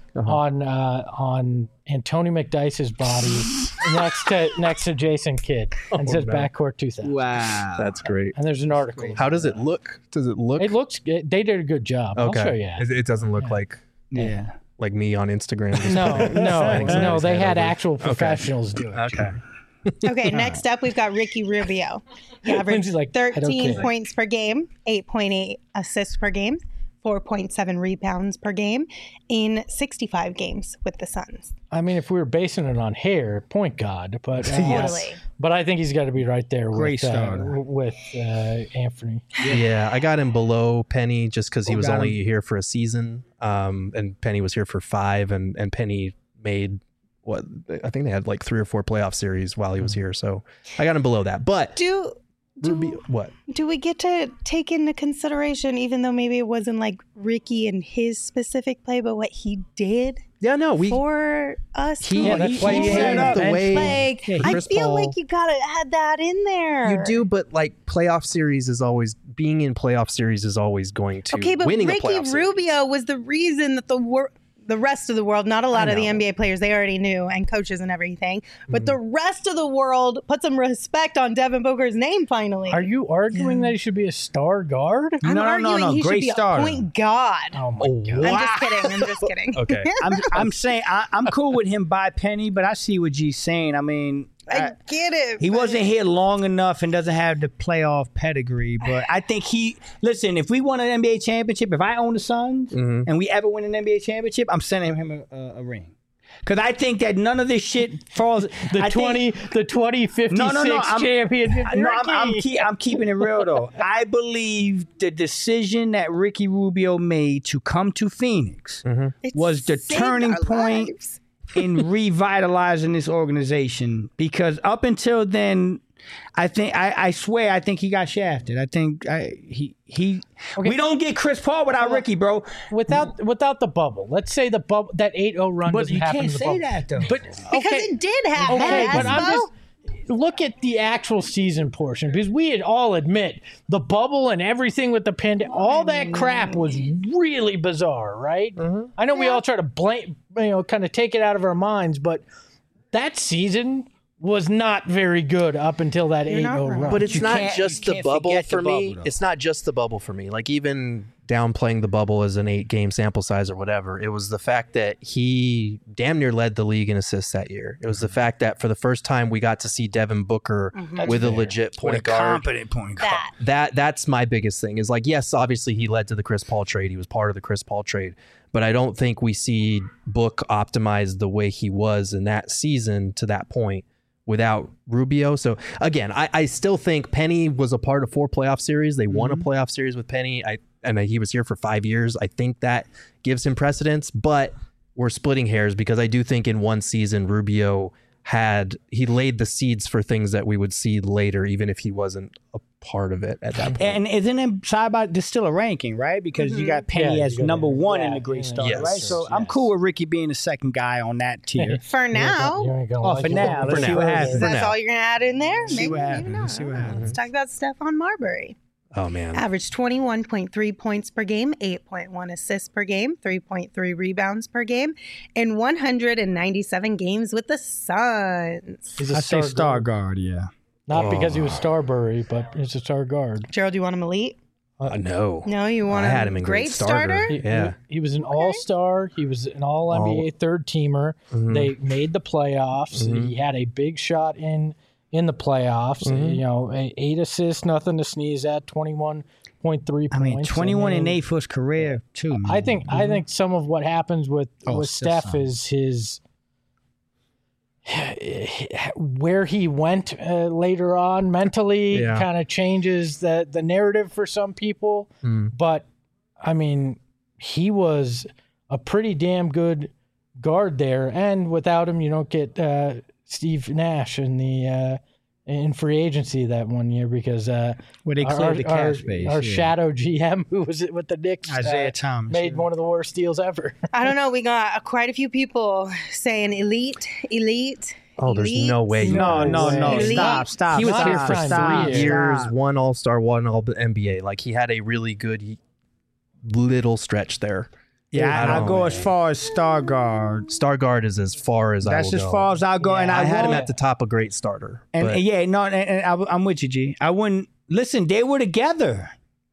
on Anthony McDyess's body next to Jason Kidd, and says no. backcourt 2000. Wow. That's great. And there's an article. How does it look? Does it look? It looks they did a good job. okay. I'll show you. It doesn't look like me on Instagram. Just No, putting no, somebody's they head had over. actual professionals do it. Okay. Okay, next up, we've got Ricky Rubio. He averaged Lindsay's like, I don't 13 care. points per game, 8.8 assists per game, 4.7 rebounds per game in 65 games with the Suns. I mean, if we were basing it on hair, point guard, but Totally. But I think he's got to be right there Great with starter. Anthony. Yeah, I got him below Penny just because he was got only here for a season, and Penny was here for 5, and Penny made what I think they had like 3 or 4 playoff series while he was here, so I got him below that. But Do what? do we get to take into consideration, even though maybe it wasn't like Ricky and his specific play, but what he did Yeah, no, for us? Yeah, that's why you had have the way Like, I Chris feel Paul- like you gotta add that in there. You do, but like playoff series is always being in playoff series is always going to Okay, but winning a Ricky playoff series. Rubio was the reason that the rest of the world, not a lot of the NBA players, they already knew, and coaches and everything, but the rest of the world put some respect on Devin Booker's name finally. Are you arguing that he should be a star guard? I'm No. arguing he Great should be starter. a point guard. Oh my god! I'm just kidding. I'm just kidding. Okay. I'm saying I'm cool with him by Penny, but I see what G's saying. I mean, I get it. He wasn't here long enough and doesn't have the playoff pedigree. But I think listen, if we won an NBA championship, if I own the Suns and we ever win an NBA championship, I'm sending him a ring. Because I think that none of this shit falls. The 2056 championship. I'm keeping it real though. I believe the decision that Ricky Rubio made to come to Phoenix was the turning point in revitalizing this organization. Because up until then, I swear I think he got shafted. I think we don't get Chris Paul without Ricky, bro. Without the bubble. Let's say the bubble, that 8-0 run But doesn't you happen can't in the say bubble. that though. But because it did happen. Okay, but I'm Espo. just look at the actual season portion, because we had all admit the bubble and everything with the pandemic, all that crap was really bizarre, right? I know we all try to blame, kind of take it out of our minds, but that season was not very good up until that 8-0 run. But it's not just the bubble for me. Though. It's not just the bubble for me. Like, even downplaying the bubble as an 8-game sample size or whatever, it was the fact that he damn near led the league in assists that year. It was the fact that for the first time we got to see Devin Booker with a legit point guard. Competent point guard. That's my biggest thing is, like, yes, obviously he led to the Chris Paul trade. He was part of the Chris Paul trade. But I don't think we see Book optimized the way he was in that season to that point without Rubio. So again, I still think Penny was a part of 4 playoff series. They won a playoff series with Penny. And he was here for 5 years. I think that gives him precedence, but we're splitting hairs because I do think in one season Rubio laid the seeds for things that we would see later, even if he wasn't a part of it at that point. And isn't it side by there's still a ranking, right? Because you got Penny as number 1 in the great start, Yes. right? So I'm cool with Ricky being the second guy on that tier. For now. For now. Let's see what happens. That's all you're going to add in there? See what happens. Maybe not. See what happens. Let's talk about Stephon Marbury. Oh, man. Averaged 21.3 points per game, 8.1 assists per game, 3.3 rebounds per game, in 197 games with the Suns. He's a I say star guard, yeah. Not because he was Starbury, but he's a star guard. Gerald, do you want him elite? No. No, you want I had him him in great starter? Yeah. He was an all-star. He was an all-NBA third-teamer. They made the playoffs. He had a big shot in the playoffs. 8 assists, nothing to sneeze at, 21.3 points. I mean, 21 and 8 for his career, too, man. I think some of what happens with Steph is his where he went later on mentally kind of changes the narrative for some people. But I mean, he was a pretty damn good guard there, and without him, you don't get Steve Nash in the in free agency that one year because where they cleared the cap space. Our shadow GM, who was it with the Knicks, Isaiah Thomas, made one of the worst deals ever. I don't know. We got quite a few people saying elite. Oh, there's no way. No. Elite. Stop. He was here for 3 years, Stop. 1 All-Star, 1 All-NBA. Like, he had a really good little stretch there. Yeah, I'll go as far as star guard. Star guard is as far as I will go. That's as far as I'll go. And I had him at the top, a great starter. And I'm with you, G. I wouldn't listen. They were together.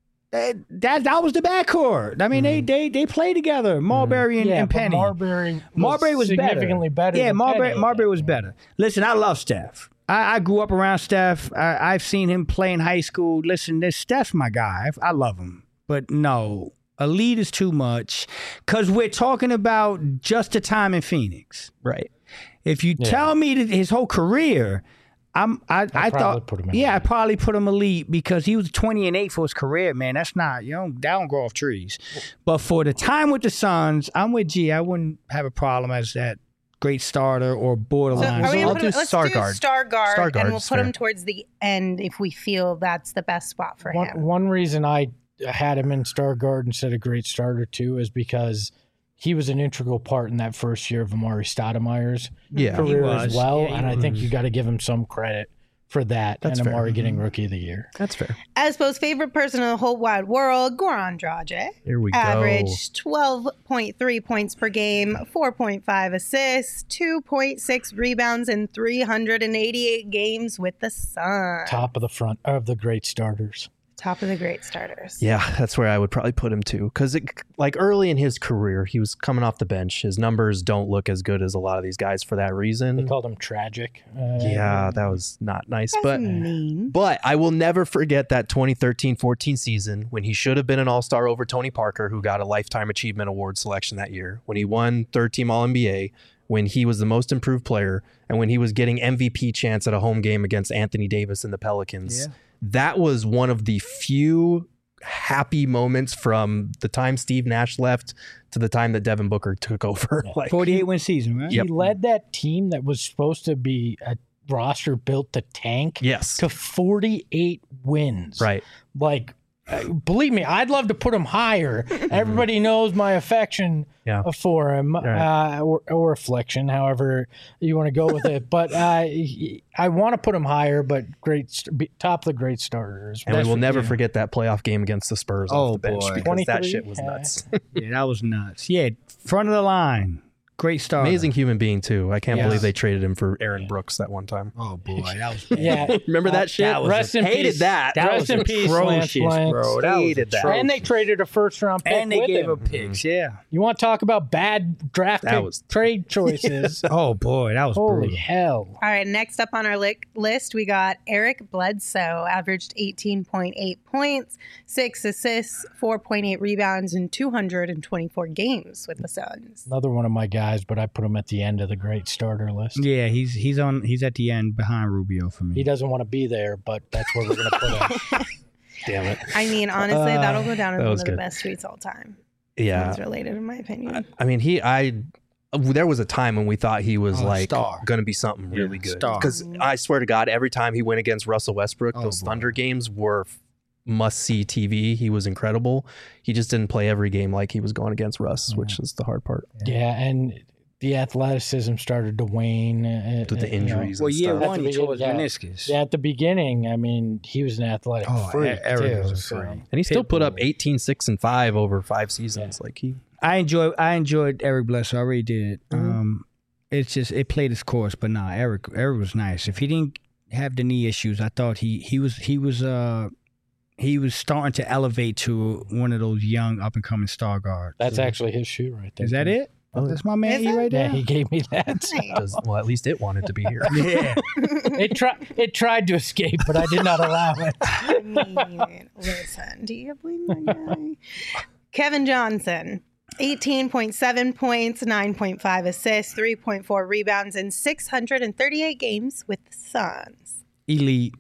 That was the backcourt. I mean, they play together. Marbury and Penny. Marbury was significantly better. Yeah, than Marbury was better. Listen, I love Steph. I grew up around Steph. I've seen him play in high school. Listen, Steph's my guy. I love him. But no, elite is too much because we're talking about just a time in Phoenix. Right. If you tell me that his whole career, I thought, put him in I probably put him elite because he was 20 and 8 for his career, man. That's not, that don't grow off trees. But for the time with the Suns, I'm with G. I wouldn't have a problem as that great starter or borderline. So are we I'll gonna do let's star do guard. star guard, Star guard and we'll is put fair. him towards the end if we feel that's the best spot for him. One reason I had him in star guard instead of great starter too is because he was an integral part in that first year of Amari Stoudemire's career as well, and I think you got to give him some credit for that. That's and fair. Amari getting Rookie of the Year. That's fair. Espo's favorite person in the whole wide world, Goran Dragic. Here we go. Averaged 12.3 points per game, 4.5 assists, 2.6 rebounds in 388 games with the Suns. Top of the front of the great starters. Top of the great starters. Yeah, that's where I would probably put him too. Because like early in his career, he was coming off the bench. His numbers don't look as good as a lot of these guys for that reason. They called him tragic. Yeah, that was not nice. That's mean. But I will never forget that 2013-14 season when he should have been an all-star over Tony Parker, who got a Lifetime Achievement Award selection that year, when he won third-team All-NBA, when he was the most improved player, and when he was getting MVP chance at a home game against Anthony Davis and the Pelicans. Yeah. That was one of the few happy moments from the time Steve Nash left to the time that Devin Booker took over. Like 48-win season, right? He led that team that was supposed to be a roster built to tank to 48 wins. Right. Like, believe me, I'd love to put him higher. Everybody knows my affection for him, or affliction, however you want to go with it. But I want to put him higher, but top of the great starters. And we will never forget that playoff game against the Spurs off the bench, because that shit was nuts. Yeah, that was nuts. Yeah, front of the line. Great starter. Amazing human being, too. I can't believe they traded him for Aaron Brooks that one time. Oh, boy. That was bad. Remember that shit? Rest in hated peace. That Rest in peace, Lance Blanks. Bro. Hated that. And they traded a first-round pick and they with gave him. up picks, You want to talk about bad draft pick trade choices? Oh, boy. That was Holy brutal. hell. All right, next up on our list, we got Eric Bledsoe, averaged 18.8 points, 6 assists, 4.8 rebounds in 224 games with the Suns. Another one of my guys, but I put him at the end of the great starter list. Yeah, he's at the end behind Rubio for me. He doesn't want to be there, but that's where we're going to put him. Damn it. I mean, honestly, that'll go down as one of the best tweets all time. Yeah. It's related, in my opinion. I mean, there was a time when we thought he was going to be something really good. Because I swear to God, every time he went against Russell Westbrook, those Thunder games were must-see TV. He was incredible. He just didn't play every game like he was going against Russ, which is the hard part. Yeah, and the athleticism started to wane. With the injuries and stuff. Well, one, he tore his meniscus. Yeah, at the beginning, I mean, he was an athletic freak, too. And he still put up 18, 6, and 5 over 5 seasons. Yeah. I enjoyed Eric Bledsoe. I really did. It's just, it played its course, but nah, Eric was nice. If he didn't have the knee issues, I thought he was starting to elevate to one of those young up and coming star guards. That's actually his shoe right there. Is that it? Oh, that's my man right there. Yeah, he gave me that. Well, at least it wanted to be here. Yeah. It tried to escape, but I did not allow it. I mean, listen, do you believe my guy? Kevin Johnson, 18.7 points, 9.5 assists, 3.4 rebounds in 638 games with the Suns. Elite.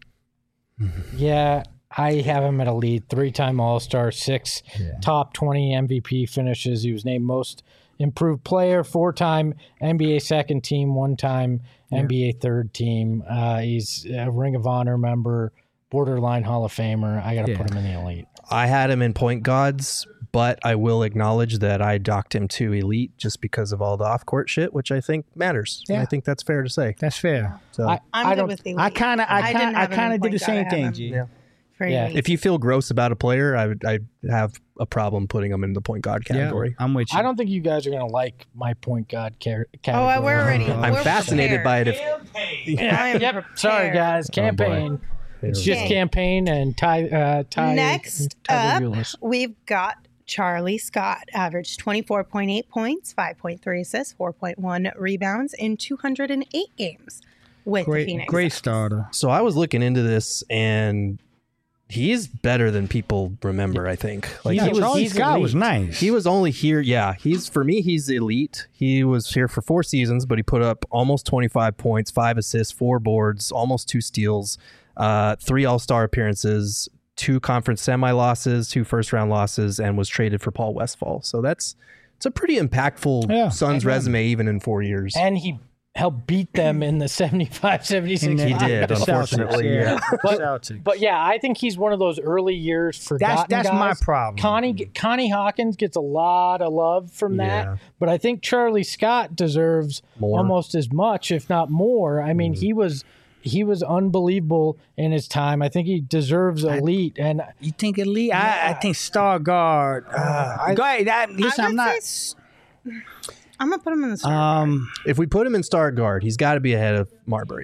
Yeah, I have him at elite. 3-time All-Star, 6 top 20 MVP finishes. He was named most improved player, 4-time NBA second team, 1-time NBA third team. He's a Ring of Honor member, borderline Hall of Famer. I got to put him in the elite. I had him in point guards, but I will acknowledge that I docked him to elite just because of all the off-court shit, which I think matters. Yeah. I think that's fair to say. That's fair. So I'm good with elite. I kind of did the same thing, G. Yeah. If you feel gross about a player, I'd have a problem putting him in the point guard category. Yeah, I'm with you. I don't think you guys are going to like my point guard category. Oh, we're already. I'm fascinated by it. Yep. Sorry, guys. Campaign. It's just campaign and tie. Next up, we've got Charlie Scott, averaged 24.8 points, 5.3 assists, 4.1 rebounds in 208 games with the Phoenix. Great starter. So I was looking into this, and he's better than people remember, I think. Like Charlie Scott was nice. He was only here. Yeah, for me, he's elite. He was here for 4 seasons, but he put up almost 25 points, 5 assists, 4 boards, almost 2 steals, 3 All-Star appearances, 2 conference semi-losses, 2 first-round losses, and was traded for Paul Westphal. So it's a pretty impactful Suns resume, even in 4 years. And he helped beat them in the 75-76. He did, unfortunately. But yeah, I think he's one of those early years forgotten That's guys. my problem. Connie Hawkins gets a lot of love from that, but I think Charlie Scott deserves almost as much, if not more. I mean, he was unbelievable in his time. I think he deserves elite. And you think elite? I think star guard. Go ahead. Listen, I'm not. I'm gonna put him in the star guard. If we put him in star guard, he's got to be ahead of Marbury, though.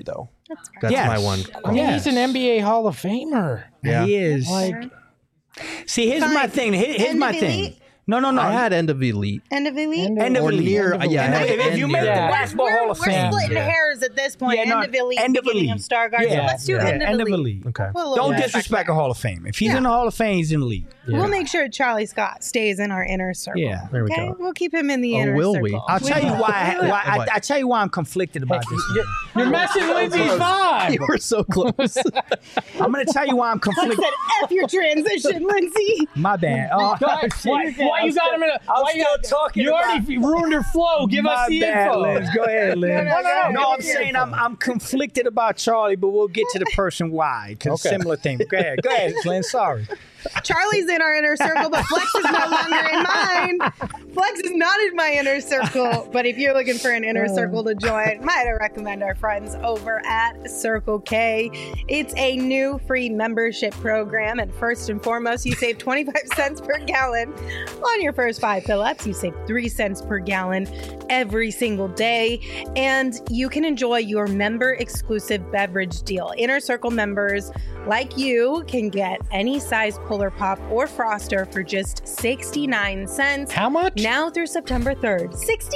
That's Yes. my one. I mean, he's an NBA Hall of Famer. Yeah. He is. Like, See, here's my thing. Here's my thing. No. I had end of elite. End of elite? End of Or elite. near. Yeah. I had If you end make near. the Basketball Hall of We're Fame. splitting hairs at this point. Yeah, no, end of elite, end of beginning elite. of Stargard. Yeah. So let's do end of elite. Okay. Put a little Don't respect disrespect there. a Hall of Fame. If he's in the Hall of Fame, he's in elite. We'll make sure Charlie Scott stays in our inner circle. Yeah. There we Okay, go. we'll keep him in the Oh, inner will circle. we? I'll tell you why. I tell you why I'm conflicted about this. you're messing Lindsay's vibe. You were so close. I'm going to tell you why I'm I conflicted. said, F your transition, Lindsay. My bad. Oh, Why you got him in a? Why you got talking You already ruined her flow. Give us the info. Liz. Go ahead, Liz. No, I'm saying I'm conflicted about Charlie, but we'll get to the person why. Because similar thing. Go ahead, Lynn. Sorry. Charlie's in our inner circle, but Flex is no longer in mine. Flex is not in my inner circle. But if you're looking for an inner circle to join, might I recommend our friends over at Circle K. It's a new free membership program. And first and foremost, you save 25 cents per gallon on your first 5 fill-ups. You save 3 cents per gallon every single day. And you can enjoy your member-exclusive beverage deal. Inner Circle members like you can get any size Polar Pop or Froster for just 69 cents. How much? Now through September 3rd.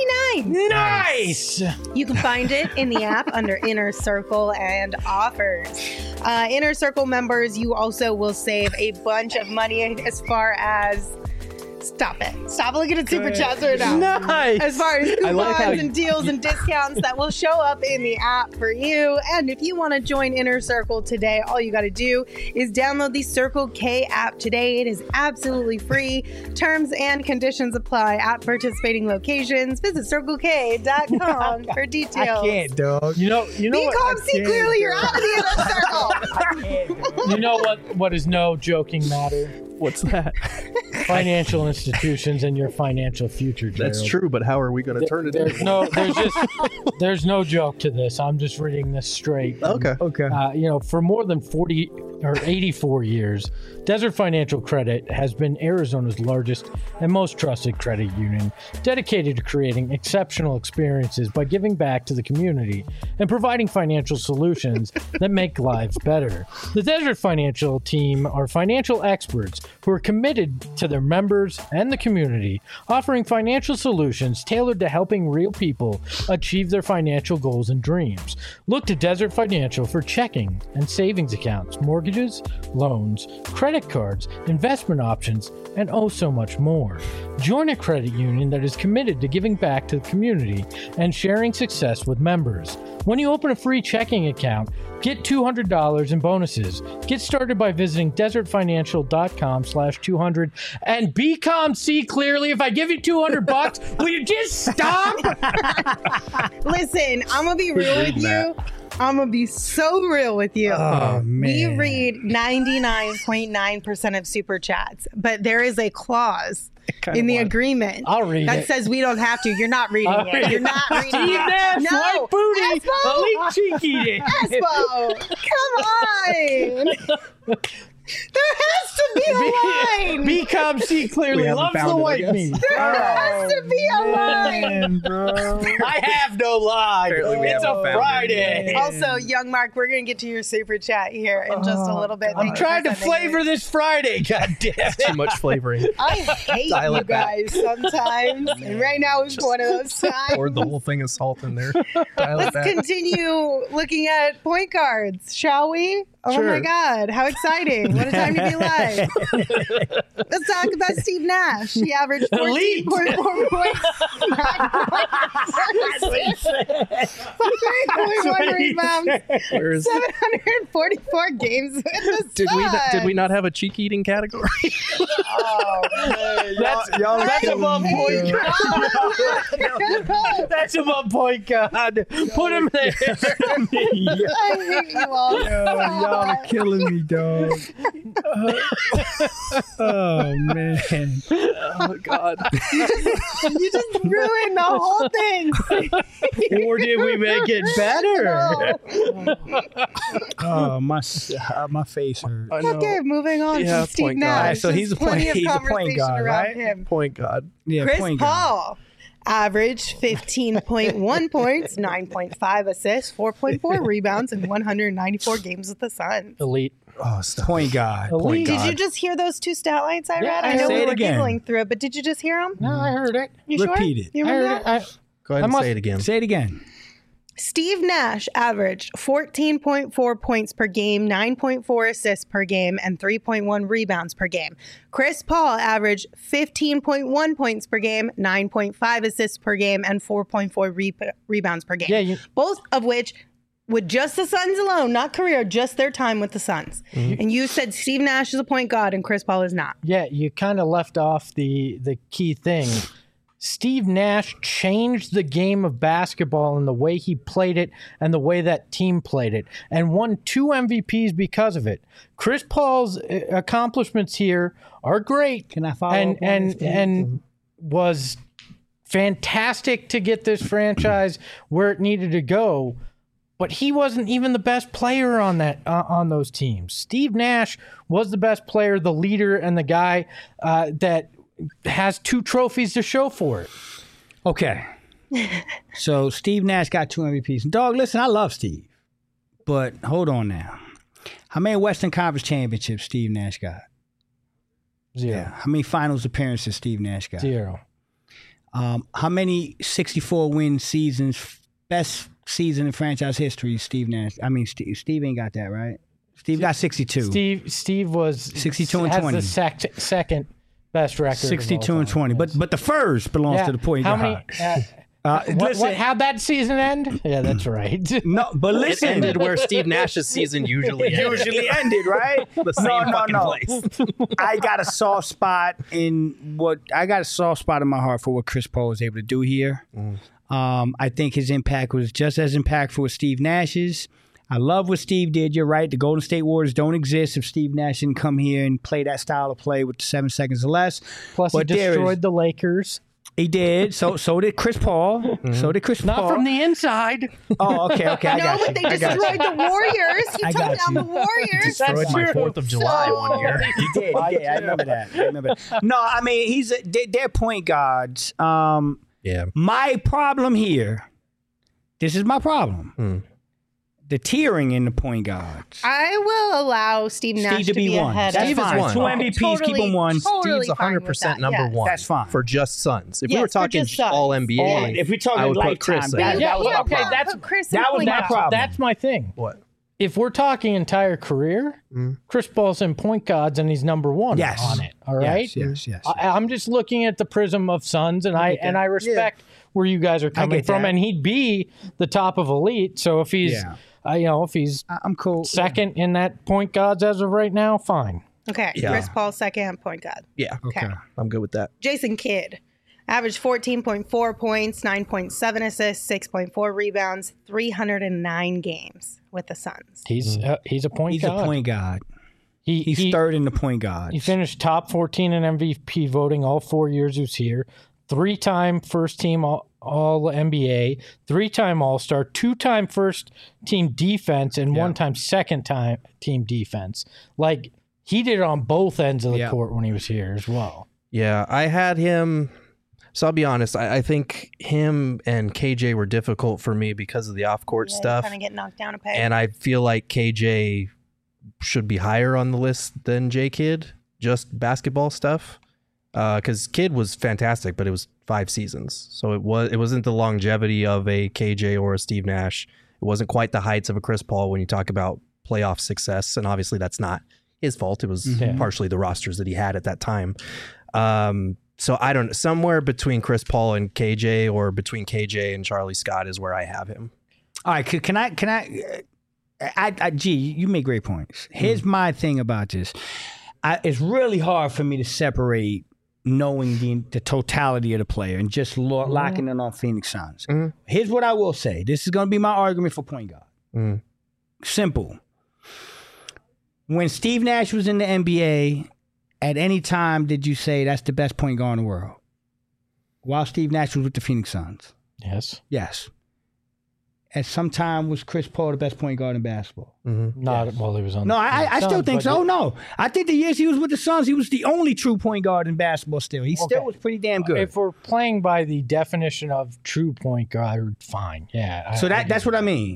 69. Nice. You can find it in the app under Inner Circle and offers. Inner Circle members, you also will save a bunch of money as far as... Stop it. Stop looking at super chats right now. Nice. As far as coupons like how and deals and discounts that will show up in the app for you. And if you want to join Inner Circle today, all you got to do is download the Circle K app today. It is absolutely free. Terms and conditions apply at participating locations. Visit CircleK.com for details. I can't, dog. You know Be what? calm, see clearly, you're out of the Inner Circle. You know what is no joking matter? What's that? Financial institutions and your financial future, Gerald. That's true, but how are we going to turn it into? There's no joke to this. I'm just reading this straight. Okay. Okay. For more than 40 or 84 years, Desert Financial Credit has been Arizona's largest and most trusted credit union, dedicated to creating exceptional experiences by giving back to the community and providing financial solutions that make lives better. The Desert Financial team are financial experts who are committed to their members and the community, offering financial solutions tailored to helping real people achieve their financial goals and dreams. Look to Desert Financial for checking and savings accounts, mortgages, loans, credit cards, investment options, and oh so much more. Join a credit union that is committed to giving back to the community and sharing success with members. When you open a free checking account, get $200 in bonuses. Get started by visiting desertfinancial.com/200 and be calm, see clearly. If I give you $200, will you just stop? Listen, I'm going to be real with you. I'm going to be so real with you. Oh, man. We read 99.9% of super chats, but there is a clause in the agreement I'll read that it. says we don't have to. You're not reading I'll it. read You're it. not reading Steve it. Nash, No. white booty, Espo! elite cheeky. Espo, come on. There has to be a line. Be calm, see clearly. We haven't Loves found the it, I white guess. meat. There has to be a line. I have no line. Apparently we It's a haven't found it. Friday. Also, young Mark, we're going to get to your super chat here in just a little bit. I'm trying to flavor this Friday. God damn it. Too much flavoring. I hate Dial you it back. guys sometimes. And right now is one of those times. Poured the whole thing of salt in there. Dial it Let's back. continue looking at point guards, shall we? Oh Sure. my God, how exciting. What a time to be alive. Let's talk about Steve Nash. He averaged 14.4 points, 3.1 rebounds, Where is 744 games with the did Suns. we not have a cheek eating category? That's above point guard. That's above point guard. Put him there. I hate you all. Y'all are killing me, dog. Oh, man. Oh God. You just ruined the whole thing. Or did we make it better? Oh, my face hurt. I know. Okay, moving on Yeah, to Steve point guard. Nash. All right, so he's There's a point- plenty of he's a point conversation guard, around right? him. Point God. Yeah, Chris point guard. Paul Average 15.1 points, 9.5 assists, 4.4 rebounds, and 194 games with the Suns. Elite. Oh, stop. Point guard. Elite. Did you just hear those two stat lines I read? I I know say we it were again. giggling through it, but did you just hear them? No, I heard it. You Repeat sure? it. You I remember heard that? it. Go ahead and must- say it again. Say it again. Steve Nash averaged 14.4 points per game, 9.4 assists per game, and 3.1 rebounds per game. Chris Paul averaged 15.1 points per game, 9.5 assists per game, and 4.4 rebounds per game. Yeah, Both of which, with just the Suns alone, not career, just their time with the Suns. And you said Steve Nash is a point guard and Chris Paul is not. Yeah, you kind of left off the key thing. Steve Nash changed the game of basketball and the way he played it and the way that team played it and won 2 MVPs because of it. Chris Paul's accomplishments here are great. Can I follow and up on this, and was fantastic to get this franchise where it needed to go. But he wasn't even the best player on on those teams. Steve Nash was the best player, the leader, and the guy that has 2 trophies to show for it. Okay. So Steve Nash got 2 MVPs. Dog, listen, I love Steve. But hold on now. How many Western Conference championships Steve Nash got? 0. How many finals appearances Steve Nash got? 0. How many 64-win seasons, best season in franchise history, Steve Nash? I mean, Steve ain't got that, right? Steve got 62. Steve was 62 and has 20. the second best record. 62 and 20. But the first belongs to the point How guard. many? Listen, How'd that season end? Yeah, that's right. no, but It listen. ended where Steve Nash's season usually ended. Usually ended, right? The same fucking place. I got a soft spot in my heart for what Chris Paul was able to do here. I think his impact was just as impactful as Steve Nash's. I love what Steve did. You're right. The Golden State Warriors don't exist if Steve Nash didn't come here and play that style of play with 7 seconds or less. Plus, But he there destroyed is- the Lakers. He did. So did Chris Paul. So did Chris Not Paul. from the inside. Oh, okay. I No, got you. but they I got you. destroyed the Warriors. He I took got down you. the Warriors. Destroyed my 4th of July one year. He did. I remember that. No, I mean, they're point guards. Yeah. My problem here, this is my problem. The tiering in the point guards. I will allow Steve Nash Steve to be one. ahead. That's Steve is fine. one. 2 MVPs, keep him one. Totally Steve's fine 100% with that, number yes. one. That's fine. For just Suns. If we Yes, were for talking just Suns. all NBA, If we're talking I would put lifetime, Chris that- there. that was- Yeah, okay, but that's- put Chris in that was point my guard. problem. That's my thing. What? If we're talking entire career, Chris Paul's in point guards and he's number 1 Yes. on it. All right. Yes. I'm just looking at the prism of Suns, and I respect where you guys are coming get from, that. and he'd be the top of elite. So if he's, if he's I'm cool. second in that point guards as of right now, fine. Okay, Yeah. Chris Paul second point guard. Yeah. Okay. I'm good with that. Jason Kidd, averaged 14.4 points, 9.7 assists, 6.4 rebounds, 309 games with the Suns. He's a point He's guard. a point guard. He's he, third in the point guard. He finished top 14 in MVP voting all 4 years he was here. 3-time first team all NBA, 3-time All-Star, 2-time first team defense, and 1-time second team defense. Like, he did it on both ends of the court when he was here as well. Yeah, I had him. So I'll be honest. I think him and KJ were difficult for me because of the off-court stuff. Kind of get knocked down a peg. And I feel like KJ should be higher on the list than J Kidd, just basketball stuff. Because Kidd was fantastic, but it was 5 seasons, so it wasn't the longevity of a KJ or a Steve Nash. It wasn't quite the heights of a Chris Paul when you talk about playoff success, and obviously that's not his fault. It was partially the rosters that he had at that time. So I don't know, somewhere between Chris Paul and KJ, or between KJ and Charlie Scott is where I have him. All right, can I gee, you make great points. Here's my thing about this. It's really hard for me to separate knowing the totality of the player and just locking in on Phoenix Suns. Here's what I will say. This is going to be my argument for point guard. Simple. When Steve Nash was in the NBA, at any time did you say that's the best point guard in the world? While Steve Nash was with the Phoenix Suns. Yes. Yes. at some time was Chris Paul the best point guard in basketball? Not while he was on. No, the I still Suns, think but so. No, I think the years he was with the Suns, he was the only true point guard in basketball. Still, he still was pretty damn good. If we're playing by the definition of true point guard, fine. Yeah. So that's what I mean.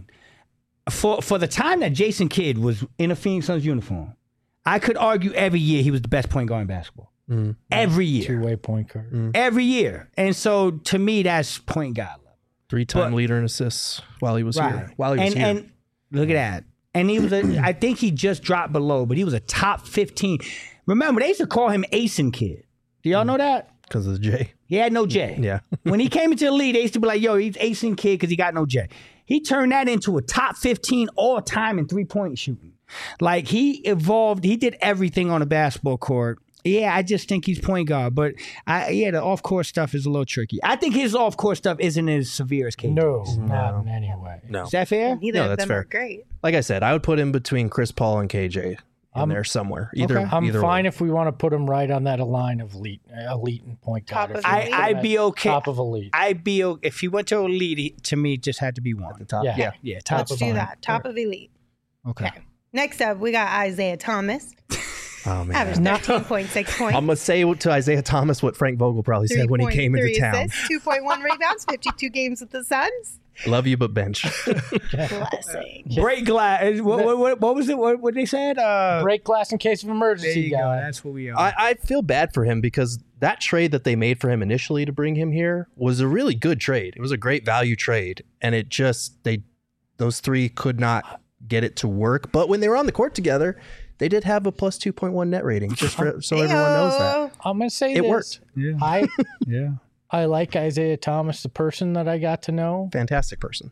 For the time that Jason Kidd was in a Phoenix Suns uniform, I could argue every year he was the best point guard in basketball. Every year. Two-way point guard. Every year. And so to me, that's point guard level. 3-time leader in assists while he was here. And look at that. And he was I think he just dropped below, but he was a top 15. Remember, they used to call him Asin Kid. Do y'all know that? Because of the J. He had no J. Yeah. When he came into the league, they used to be like, yo, he's Asin Kid because he got no J. He turned that into a top 15 all time in three-point shooting. Like, he evolved. He did everything on a basketball court. Yeah, I just think he's point guard. But, the off-court stuff is a little tricky. I think his off-court stuff isn't as severe as KJ's. No, not in any way. No. Is that fair? Neither of that's them fair. are great. Like I said, I would put him between Chris Paul and KJ in there somewhere. Either fine way. if we want to put him right on that line of elite and point guard. Top of If we elite. put him I'd at be okay. Top of elite. I'd be okay. If he went to elite, to me, it just had to be one. At the top. Yeah. Yeah, top Let's of do line. that. Top of elite. Okay. Next up, we got Isaiah Thomas. Oh, man. Average 13.6 points. I'm going to say to Isaiah Thomas what Frank Vogel probably said when he came into 3.3 town. assists, 2.1 rebounds, 52 games with the Suns. Love you, but bench. Blessing. Break glass. What was it? What they said? Break glass in case of There emergency, you go. guy. That's what we are. I feel bad for him because that trade that they made for him initially to bring him here was a really good trade. It was a great value trade. And it just, those three could not get it to work. But when they were on the court together, they did have a plus 2.1 net rating, just so everyone knows that. I'm going to say It this. worked. Yeah. Yeah. I like Isaiah Thomas, the person that I got to know, Fantastic person.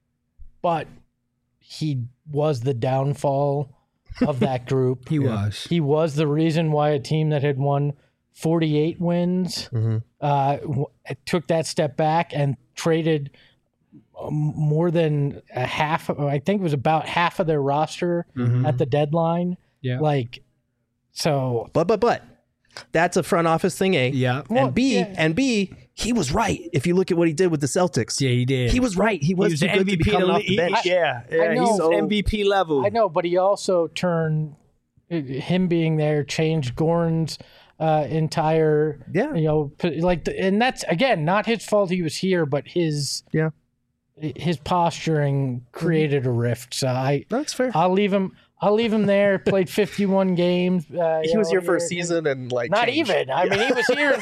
but he was the downfall of that group. He was. He was the reason why a team that had won 48 wins took that step back and traded more than a half. I think it was about half of their roster at the deadline. Yeah. But that's a front office thing, A. Yeah. And B, he was right. If you look at what he did with the Celtics. Yeah, he did. He was right. He was the too good to be coming off the bench. Yeah. I know. He's MVP level. I know, but he also turned him being there, changed Gordon's entire, and that's again not his fault. He was here, but his posturing created a rift. So That's fair. I'll leave him there. Played 51 games. He was here for a season and Not changed. even. I mean, he was here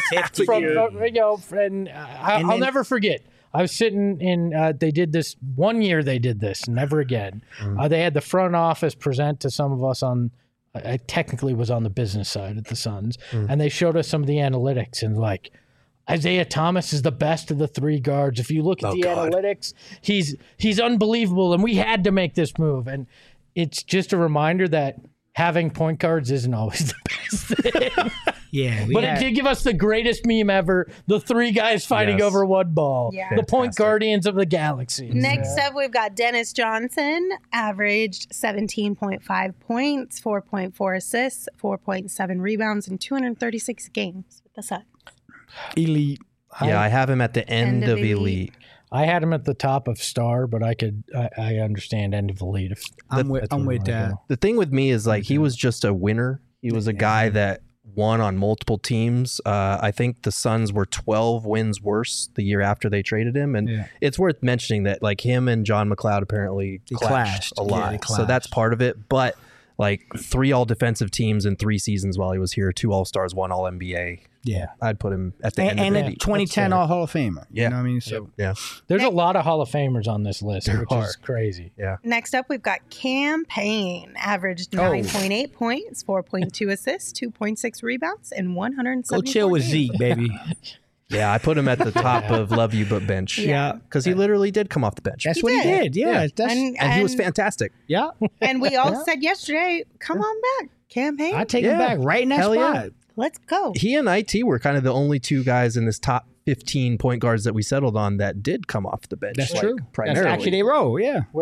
and I'll never forget. I was sitting in. They did this one year. They did this. Never again. They had the front office present to some of us on. I technically was on the business side at the Suns, and they showed us some of the analytics and Isaiah Thomas is the best of the three guards. If you look at analytics, he's unbelievable, and we had to make this move. And it's just a reminder that having point guards isn't always the best thing. Yeah. It did give us the greatest meme ever: the three guys fighting over one ball. Yeah. The point guardians of the galaxy. Next up, we've got Dennis Johnson, averaged 17.5 points, 4.4 assists, 4.7 rebounds, in 236 games with the Suns. elite. Yeah, I have him at the end of elite. I had him at the top of star, but I understand end of elite. I'm with that. The thing with me is he was just a winner. He was a guy that won on multiple teams. I think the Suns were 12 wins worse the year after they traded him. And it's worth mentioning that him and John McLeod apparently clashed a lot. Yeah, so that's part of it. But 3 all-defensive teams in 3 seasons while he was here, 2 All-Stars, 1 All-NBA. Yeah. I'd put him at the end of and elite. a 2010 All Hall of Famer. Yeah. You know what I mean? So Yeah. There's a lot of Hall of Famers on this list, which is crazy. Yeah. Next up, we've got Cam Payne, averaged 9.8 points, 4.2 assists, 2.6 rebounds, and 174 go chill with games. Zeke, baby. Yeah, I put him at the top of love you but bench. Yeah. Because he literally did come off the bench. That's what he did. Yeah. That's, And he was fantastic. yeah. And we all said yesterday, come on back, Cam Payne. I take him back right in that Hell spot. yeah. Let's go. He and IT were kind of the only 2 guys in this top 15 point guards that we settled on that did come off the bench. That's true. Primarily. That's actually they roll. Yeah. Where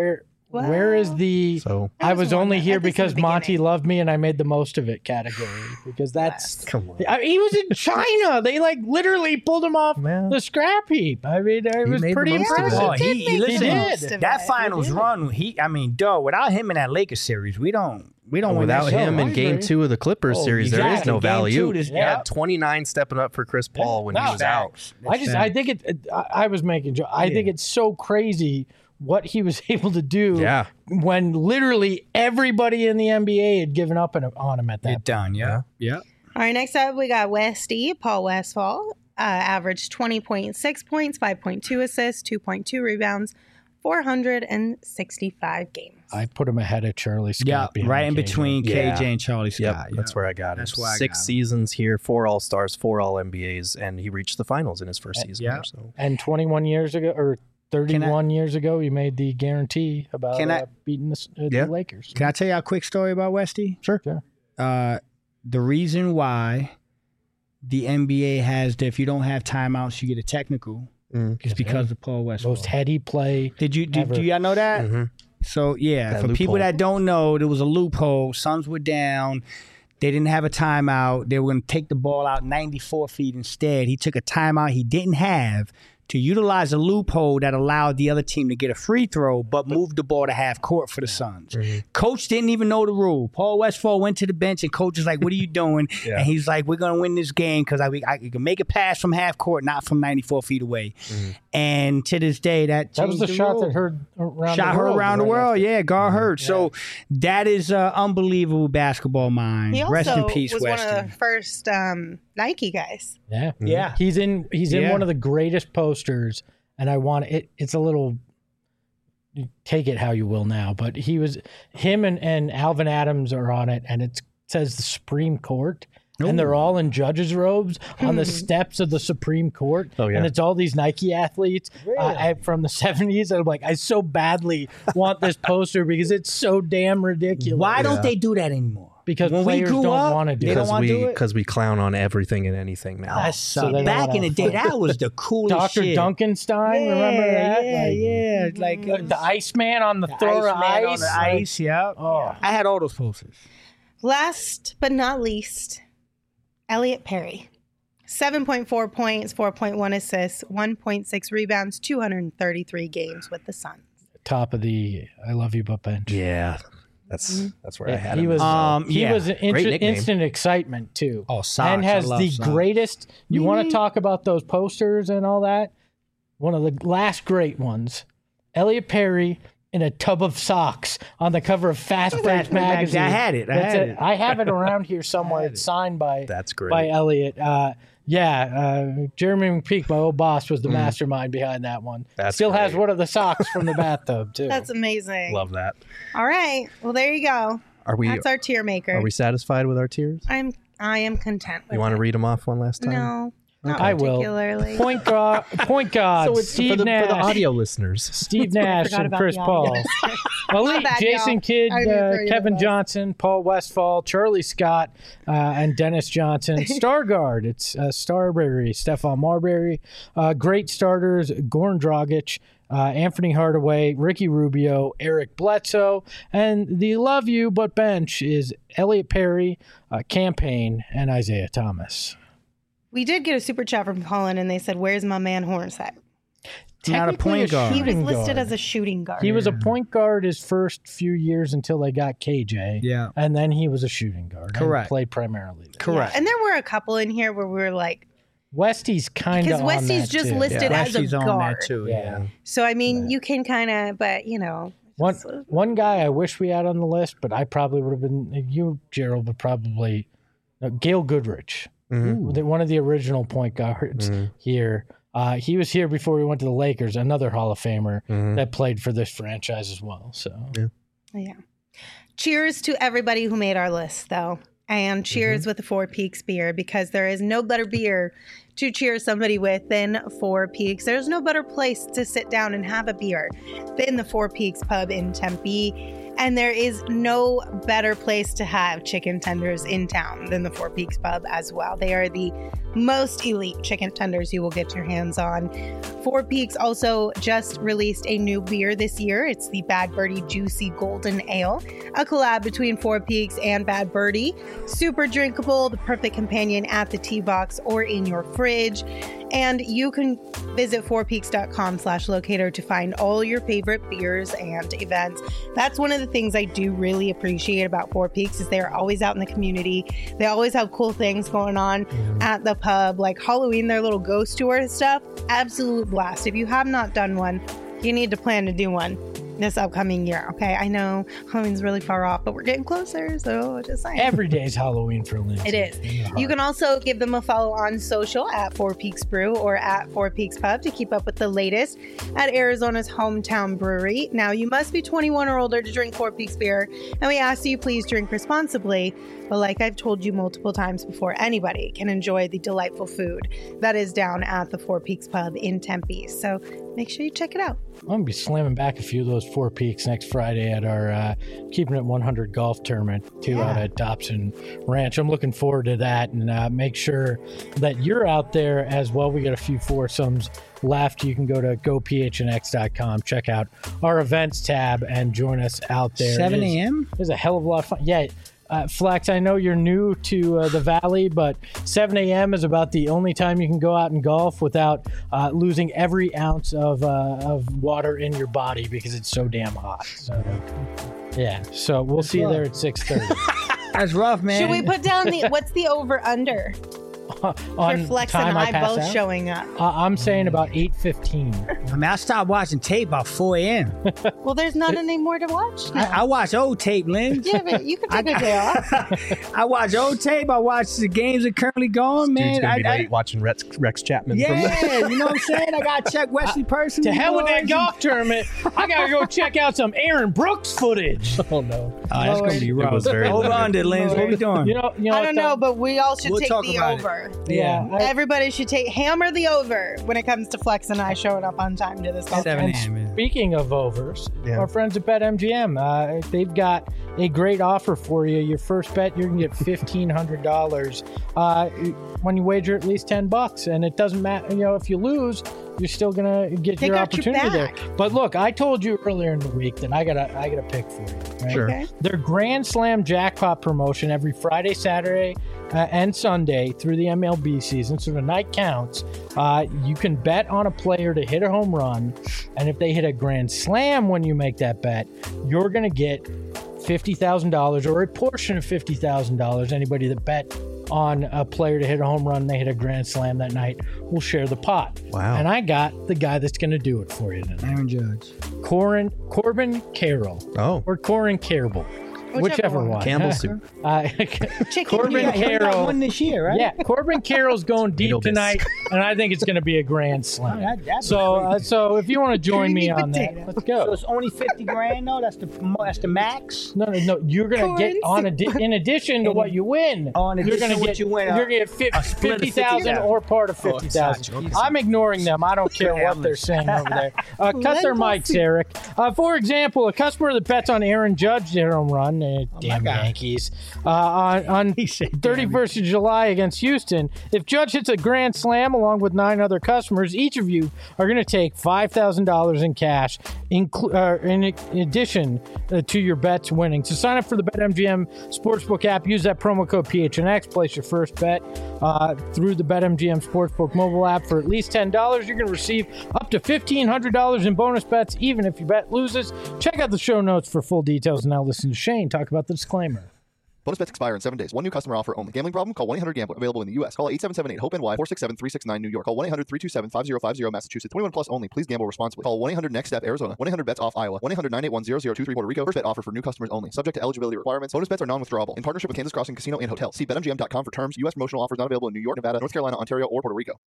Where is the I was only one here at least in the because Monty beginning. loved me and I made the most of it category? Because that's Come on. he was in China. They like literally pulled him off Man. the scrap heap. I mean, it was made the pretty most of it. impressive. Oh, he listen. did. That finals run, without him in that Lakers series, we don't win Without that him show. in Game 2 of the Clippers series, there is exactly. no Game value. 2, this- He had 29 stepping up for Chris Paul when he was out. I think I was making joke. I think it's so crazy what he was able to do Yeah. when literally everybody in the NBA had given up on him at that Get done, yeah. All right, next up we got Westy, Paul Westphal. Averaged 20.6 points, 5.2 assists, 2.2 rebounds, 465 games. I put him ahead of Charlie Scott. Yeah, behind right in KJ. between Yeah. KJ and Charlie Yep, Scott. that's where I got That's him. why I 6 got him. seasons here, 4 All-Stars, 4 All-NBAs, and he reached the finals in his first season. yeah. There, so. And 21 years ago, or 31 years ago, he made the guarantee about Can I- beating the Yeah. Lakers. Can I tell you a quick story about Westy? Sure. The reason why the NBA has that if you don't have timeouts, you get a technical is because of Paul Westphal. Most heady play. Do y'all know that? Mm-hmm. So yeah, That for people loophole. that don't know, there was a loophole. Suns were down. They didn't have a timeout. They were going to take the ball out 94 feet instead. He took a timeout he didn't have to utilize a loophole that allowed the other team to get a free throw, but moved the ball to half court for the Suns. Coach didn't even know the rule. Paul Westphal went to the bench, and coach was like, "What are you doing?" And he's like, "We're going to win this game because I can make a pass from half court, not from 94 feet away." And to this day, that was the changed shot rule. that heard around Shot the her world. around the right world. after. Yeah, Gar Hurd. So that is unbelievable basketball mind. He also Rest in peace, was Westy. one of the first Nike guys. Yeah. Yeah. He's in Yeah. one of the greatest posters, and I want it. It's a little. Take it how you will now, but him and Alvin Adams are on it, and it says the Supreme Court. And they're all in judges' robes on the steps of the Supreme Court. Oh, yeah. And it's all these Nike athletes from the 70s. And I'm like, I so badly want this poster because it's so damn ridiculous. Why don't they do that anymore? Because when players we grew don't up, want to do they it. don't want to do it. Because we clown on everything and anything now. That so sucked. they don't Back wanna in the day, that was the coolest Dr. shit. Duncanstein, remember that? Yeah, Like, like the Iceman on the throw of Iceman ice. on the ice. Yeah. Oh. I had all those posters. Last but not least, Elliot Perry. 7.4 points, 4.1 assists, 1.6 rebounds, 233 games with the Suns. Top of the I love you but bench. Yeah, that's where I had he him. was he yeah. was an Great nickname. instant excitement too. Oh, Sox. and I has love the Sox. greatest. You want to talk about those posters and all that? One of the last great ones. Elliot Perry in a tub of socks on the cover of Fast Break magazine. I had it. I have it around here somewhere. It's signed by That's great. by Elliot. Jeremy McPeak, my old boss, was the mastermind behind that one. That's Still has great. one of the socks from the bathtub too. That's amazing. Love that. All right. Well, there you go. Are we That's our tier maker. are we satisfied with our tiers? I am content with You want to it. read them off one last time? No, not I will. particularly. Point guard, Steve for the Nash, audio listeners. Steve Nash, forgot and about Chris the Paul. audio. Elite, bad, Jason y'all. Kidd, I didn't throw you Kevin under the bus. Johnson, Paul Westphal, Charlie Scott, and Dennis Johnson. Star guard, it's Starberry, Stephon Marbury. Great starters, Goran Dragic, Anthony Hardaway, Ricky Rubio, Eric Bledsoe, and the love you but bench is Elliot Perry, Campaign, and Isaiah Thomas. We did get a super chat from Colin, and they said, "Where's my man Hornacek?" Not a Technically point guard. He was shooting listed guard. as a shooting guard. He was a point guard his first few years until they got KJ. Yeah. And then he was a shooting guard. Correct. And played primarily there. Correct. Yeah. And there were a couple in here where we were like, Westy's kind of because on Westy's that just too. listed as a Westy's on guard. that too. Yeah. So I mean, you can kind of, but you know, One guy I wish we had on the list, but I probably would have been you, Gerald, but probably Gail Goodrich, one of the original point guards here. He was here before we went to the Lakers, another Hall of Famer that played for this franchise as well. So yeah. Cheers to everybody who made our list, though. And cheers with the Four Peaks beer, because there is no better beer to cheer somebody with than Four Peaks. There's no better place to sit down and have a beer than the Four Peaks pub in Tempe. And there is no better place to have chicken tenders in town than the Four Peaks pub as well. They are the most elite chicken tenders you will get your hands on. Four Peaks also just released a new beer this year. It's the Bad Birdie Juicy Golden Ale, a collab between Four Peaks and Bad Birdie. Super drinkable, the perfect companion at the tea box or in your fridge. And you can visit fourpeaks.com/locator to find all your favorite beers and events. That's one of the things I do really appreciate about Four Peaks is they're always out in the community. They always have cool things going on at the pub, like Halloween, their little ghost tour and stuff. Absolute blast. If you have not done one, you need to plan to do one this upcoming year. Okay, I know Halloween's really far off, but we're getting closer, so just saying. Every day's Halloween for Lindsay. It is. You can also give them a follow on social at Four Peaks Brew or at Four Peaks Pub to keep up with the latest at Arizona's hometown brewery. Now, you must be 21 or older to drink Four Peaks beer, and we ask that you please drink responsibly. But like I've told you multiple times before, anybody can enjoy the delightful food that is down at the Four Peaks Pub in Tempe. So make sure you check it out. I'm going to be slamming back a few of those Four Peaks next Friday at our Keeping It 100 golf tournament, too, out at Dobson Ranch. I'm looking forward to that, and make sure that you're out there as well. We got a few foursomes left. You can go to gophnx.com, check out our events tab, and join us out there. 7 a.m.? There's a hell of a lot of fun. Yeah. Flex, I know you're new to the Valley, but 7 a.m. is about the only time you can go out and golf without losing every ounce of water in your body because it's so damn hot. So, yeah, so we'll see you there at 6:30. That's rough, man. Should we put down what's the over-under? For Flex and I both showing up. I'm saying about 8:15. I mean, I stopped watching tape about 4 a.m. Well, there's not any more to watch now. I watch old tape, Lynn. Yeah, but you can take a day off. I watch old tape. I watch the games that are currently going, man. Dude's gonna be late watching Rex Chapman. Yeah, you know what I'm saying? I got to check Wesley Person. To hell with that golf tournament. I got to go check out some Aaron Brooks footage. Oh, no. That's going to be rough. Hold on to Lynn. What are we doing? You know, I don't know, but we all should take the over. Yeah. Everybody should hammer the over when it comes to Flex and I showing up on time to this golf. 7 a.m. Speaking of overs, our friends at BetMGM, they've got a great offer for you. Your first bet, you're going to get $1,500 when you wager at least $10. And it doesn't matter, if you lose, you're still going to get your opportunity there. But look, I told you earlier in the week that I got a pick for you. Right? Sure. Okay. Their Grand Slam jackpot promotion every Friday, Saturday, and Sunday through the MLB season, so the night counts. You can bet on a player to hit a home run, and if they hit a Grand Slam when you make that bet, you're going to get $50,000 or a portion of $50,000. Anybody that bet on a player to hit a home run, they hit a Grand Slam that night, will share the pot. Wow. And I got the guy that's going to do it for you tonight. Aaron Judge. Corbin Carroll. Oh. Or Corin Carroll. Whichever one. Campbell soup. Corbin Carroll won this year, right? Yeah, Corbin Carroll's going deep tonight, and I think it's going to be a grand slam. So if you want to join me on that, let's go. So it's only $50,000, though. That's the max. No. You're going to get in addition to what you win. You're going to get You're going to get $50,000 or part of $50,000. I'm ignoring them. I don't care what they're saying over there. Cut their mics, Eric. For example, a customer that bets on Aaron Judge to hit a home run. Damn Yankees. On 31st of July against Houston, if Judge hits a grand slam along with 9 other customers, each of you are going to take $5,000 in cash in addition to your bets winning. So sign up for the BetMGM Sportsbook app. Use that promo code PHNX. Place your first bet through the BetMGM Sportsbook mobile app for at least $10. You're going to receive up to $1,500 in bonus bets, even if your bet loses. Check out the show notes for full details. Now listen to Shane talk about the disclaimer. Bonus bets expire in 7 days. One new customer offer only. Gambling problem? Call 1-800-GAMBLER. Available in the U.S. Call 877-8-HOPE-NY 467-369 New York. Call 1-800-327-5050 Massachusetts. 21 plus only. Please gamble responsibly. Call 1-800-NEXT-STEP Arizona. 1-800-BETS-OFF Iowa. 1-800-981-0023 Puerto Rico. First bet offer for new customers only. Subject to eligibility requirements. Bonus bets are non-withdrawable. In partnership with Kansas Crossing Casino and Hotel. See BetMGM.com for terms. U.S. promotional offers not available in New York, Nevada, North Carolina, Ontario, or Puerto Rico.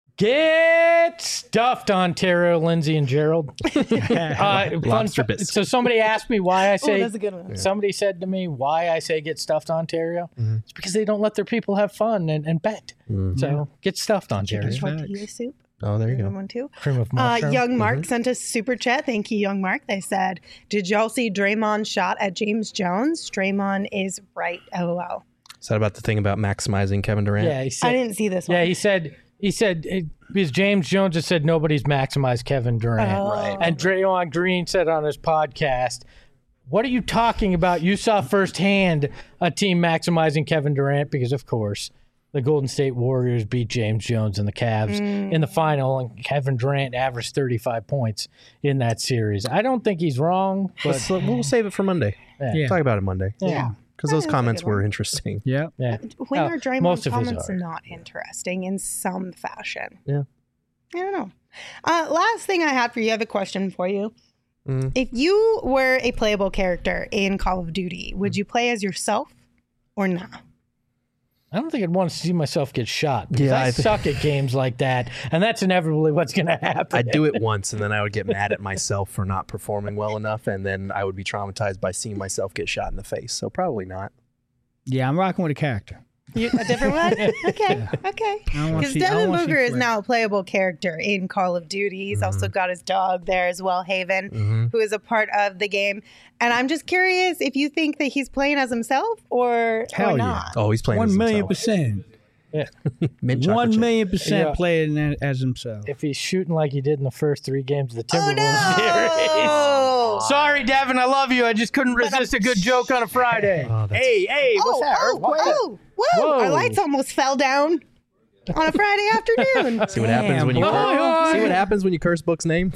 Get stuffed, Ontario, Lindsay, and Gerald. Lobster bits. So somebody asked me why I say. That's a good one. Somebody said to me why I say get stuffed, Ontario? It's because they don't let their people have fun and bet. So get stuffed, Ontario. Tortilla soup. Oh, there you go. One too. Cream of mushroom. Young Mark sent a super chat. Thank you, Young Mark. They said, "Did y'all see Draymond's shot at James Jones? Draymond is right. LOL." Is that about the thing about maximizing Kevin Durant? Yeah, he said, I didn't see this one. Yeah, he said because James Jones has said nobody's maximized Kevin Durant. Right. And Draymond Green said on his podcast, "What are you talking about? You saw firsthand a team maximizing Kevin Durant because, of course, the Golden State Warriors beat James Jones and the Cavs in the final, and Kevin Durant averaged 35 points in that series." I don't think he's wrong, but We'll save it for Monday. Yeah. Talk about it Monday. yeah. Because those comments were interesting. Yeah. Yeah. When are Draymond's most of his comments are. not interesting in some fashion? Yeah. I don't know. Last thing I had for you, I have a question for you. Mm. If you were a playable character in Call of Duty, would you play as yourself or not? I don't think I'd want to see myself get shot. Because Yeah, I suck at games like that, and that's inevitably what's going to happen. I'd do it once, and then I would get mad at myself for not performing well enough, and then I would be traumatized by seeing myself get shot in the face. So probably not. Yeah, I'm rocking with a character. A different one? Okay. Because Devin Booker is now a playable character in Call of Duty. He's also got his dog there as well, Haven, who is a part of the game. And I'm just curious if you think that he's playing as himself or not. Oh, he's playing 1,000,000%. Mint chocolate chip. 1,000,000% Yeah. playing as himself. If he's shooting like he did in the first 3 games of the Timberwolves Oh, series. Sorry, Devin, I love you. I just couldn't resist a good joke on a Friday. Hey, what's that? Whoa. Whoa. Our lights almost fell down on a Friday afternoon. See what happens when you see what happens when you curse Book's name.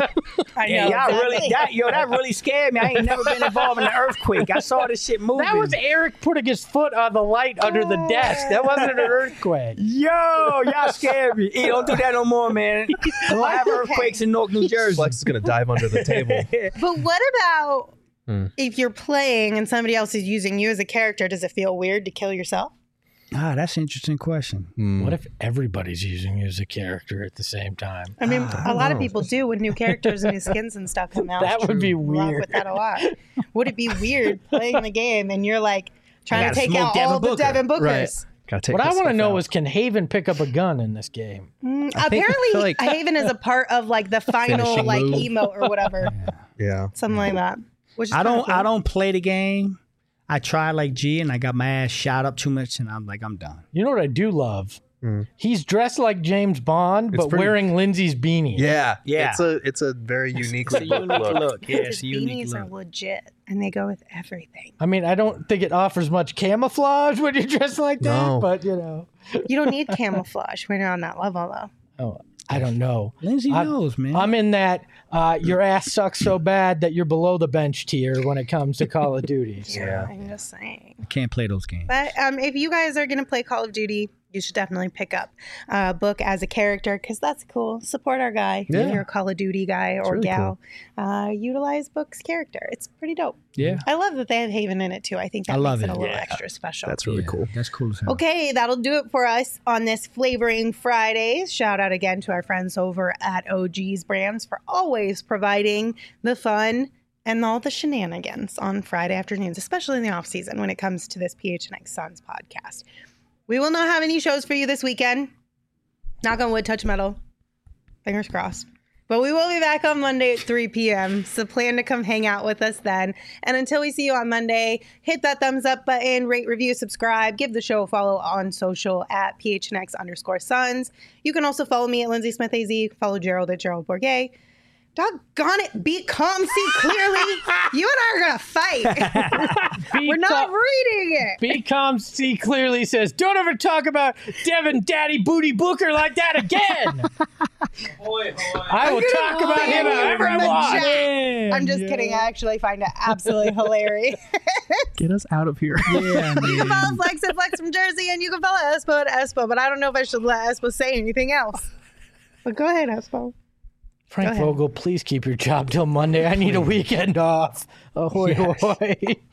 I know. Yeah, exactly. that really scared me. I ain't never been involved in an earthquake. I saw this shit moving. That was Eric putting his foot on the light under the desk. That wasn't an earthquake. Yo, y'all scared me. Hey, don't do that no more, man. Don't have earthquakes in Newark, New Jersey. Flex is gonna dive under the table. But what about if you're playing and somebody else is using you as a character? Does it feel weird to kill yourself? Ah, that's an interesting question. What if everybody's using you as a character at the same time? I mean, a lot of people do with new characters and new skins and stuff come out. That would be Rock weird. with that a lot. Would it be weird playing the game and you're like trying to gotta take smoke out Devin all the Booker. Devin Bookers? Right. Gotta take What I this want to stuff know out. is, can Haven pick up a gun in this game? Apparently, feel like- Haven is a part of like the final Finishing like move. emote or whatever, Yeah. something like that. Which is I kinda cool. don't play the game. I tried like G and I got my ass shot up too much and I'm like, I'm done. You know what I do love? He's dressed like James Bond, but pretty- wearing Lindsay's beanie. Yeah. Yeah. It's a very unique look. Yeah, His it's a unique beanies are look. legit and they go with everything. I mean, I don't think it offers much camouflage when you're dressed like that, No. but you know. You don't need camouflage when you're on that level, though. Oh, I don't know. Lindsay knows, man. I'm in that your ass sucks so bad that you're below the bench tier when it comes to Call of Duty. So. Yeah. I'm just saying. I can't play those games. But if you guys are going to play Call of Duty, you should definitely pick up Book as a character because that's cool. Support our guy if Yeah. you're a Call of Duty guy or really gal. Utilize Book's character. It's pretty dope. Yeah. I love that they have Haven in it too. I think that I love makes it it. a little Yeah. extra special. That's really cool. That's cool as hell. Okay, that'll do it for us on this Flavoring Fridays. Shout out again to our friends over at OG's Brands for always providing the fun and all the shenanigans on Friday afternoons, especially in the off season when it comes to this PHNX Suns podcast. We will not have any shows for you this weekend. Knock on wood, touch metal. Fingers crossed. But we will be back on Monday at 3 p.m. So plan to come hang out with us then. And until we see you on Monday, hit that thumbs up button, rate, review, subscribe, give the show a follow on social at PHNX_Suns. You can also follow me at Lindsay Smith AZ. Follow Gerald at Gerald Bourget. Doggone it, be calm, see clearly. You and I are going to fight. We're not reading it. Be calm, see clearly says, don't ever talk about Devin Daddy Booty Booker like that again. I will talk about him however I want. I'm just kidding. I actually find it absolutely hilarious. Get us out of here. Yeah, You can man. follow Flex at Flex from Jersey, and you can follow Espo at Espo, but I don't know if I should let Espo say anything else. But go ahead, Espo. Frank ahead. Vogel, please keep your job till Monday. I need a weekend off. Ahoy, Yes. ahoy.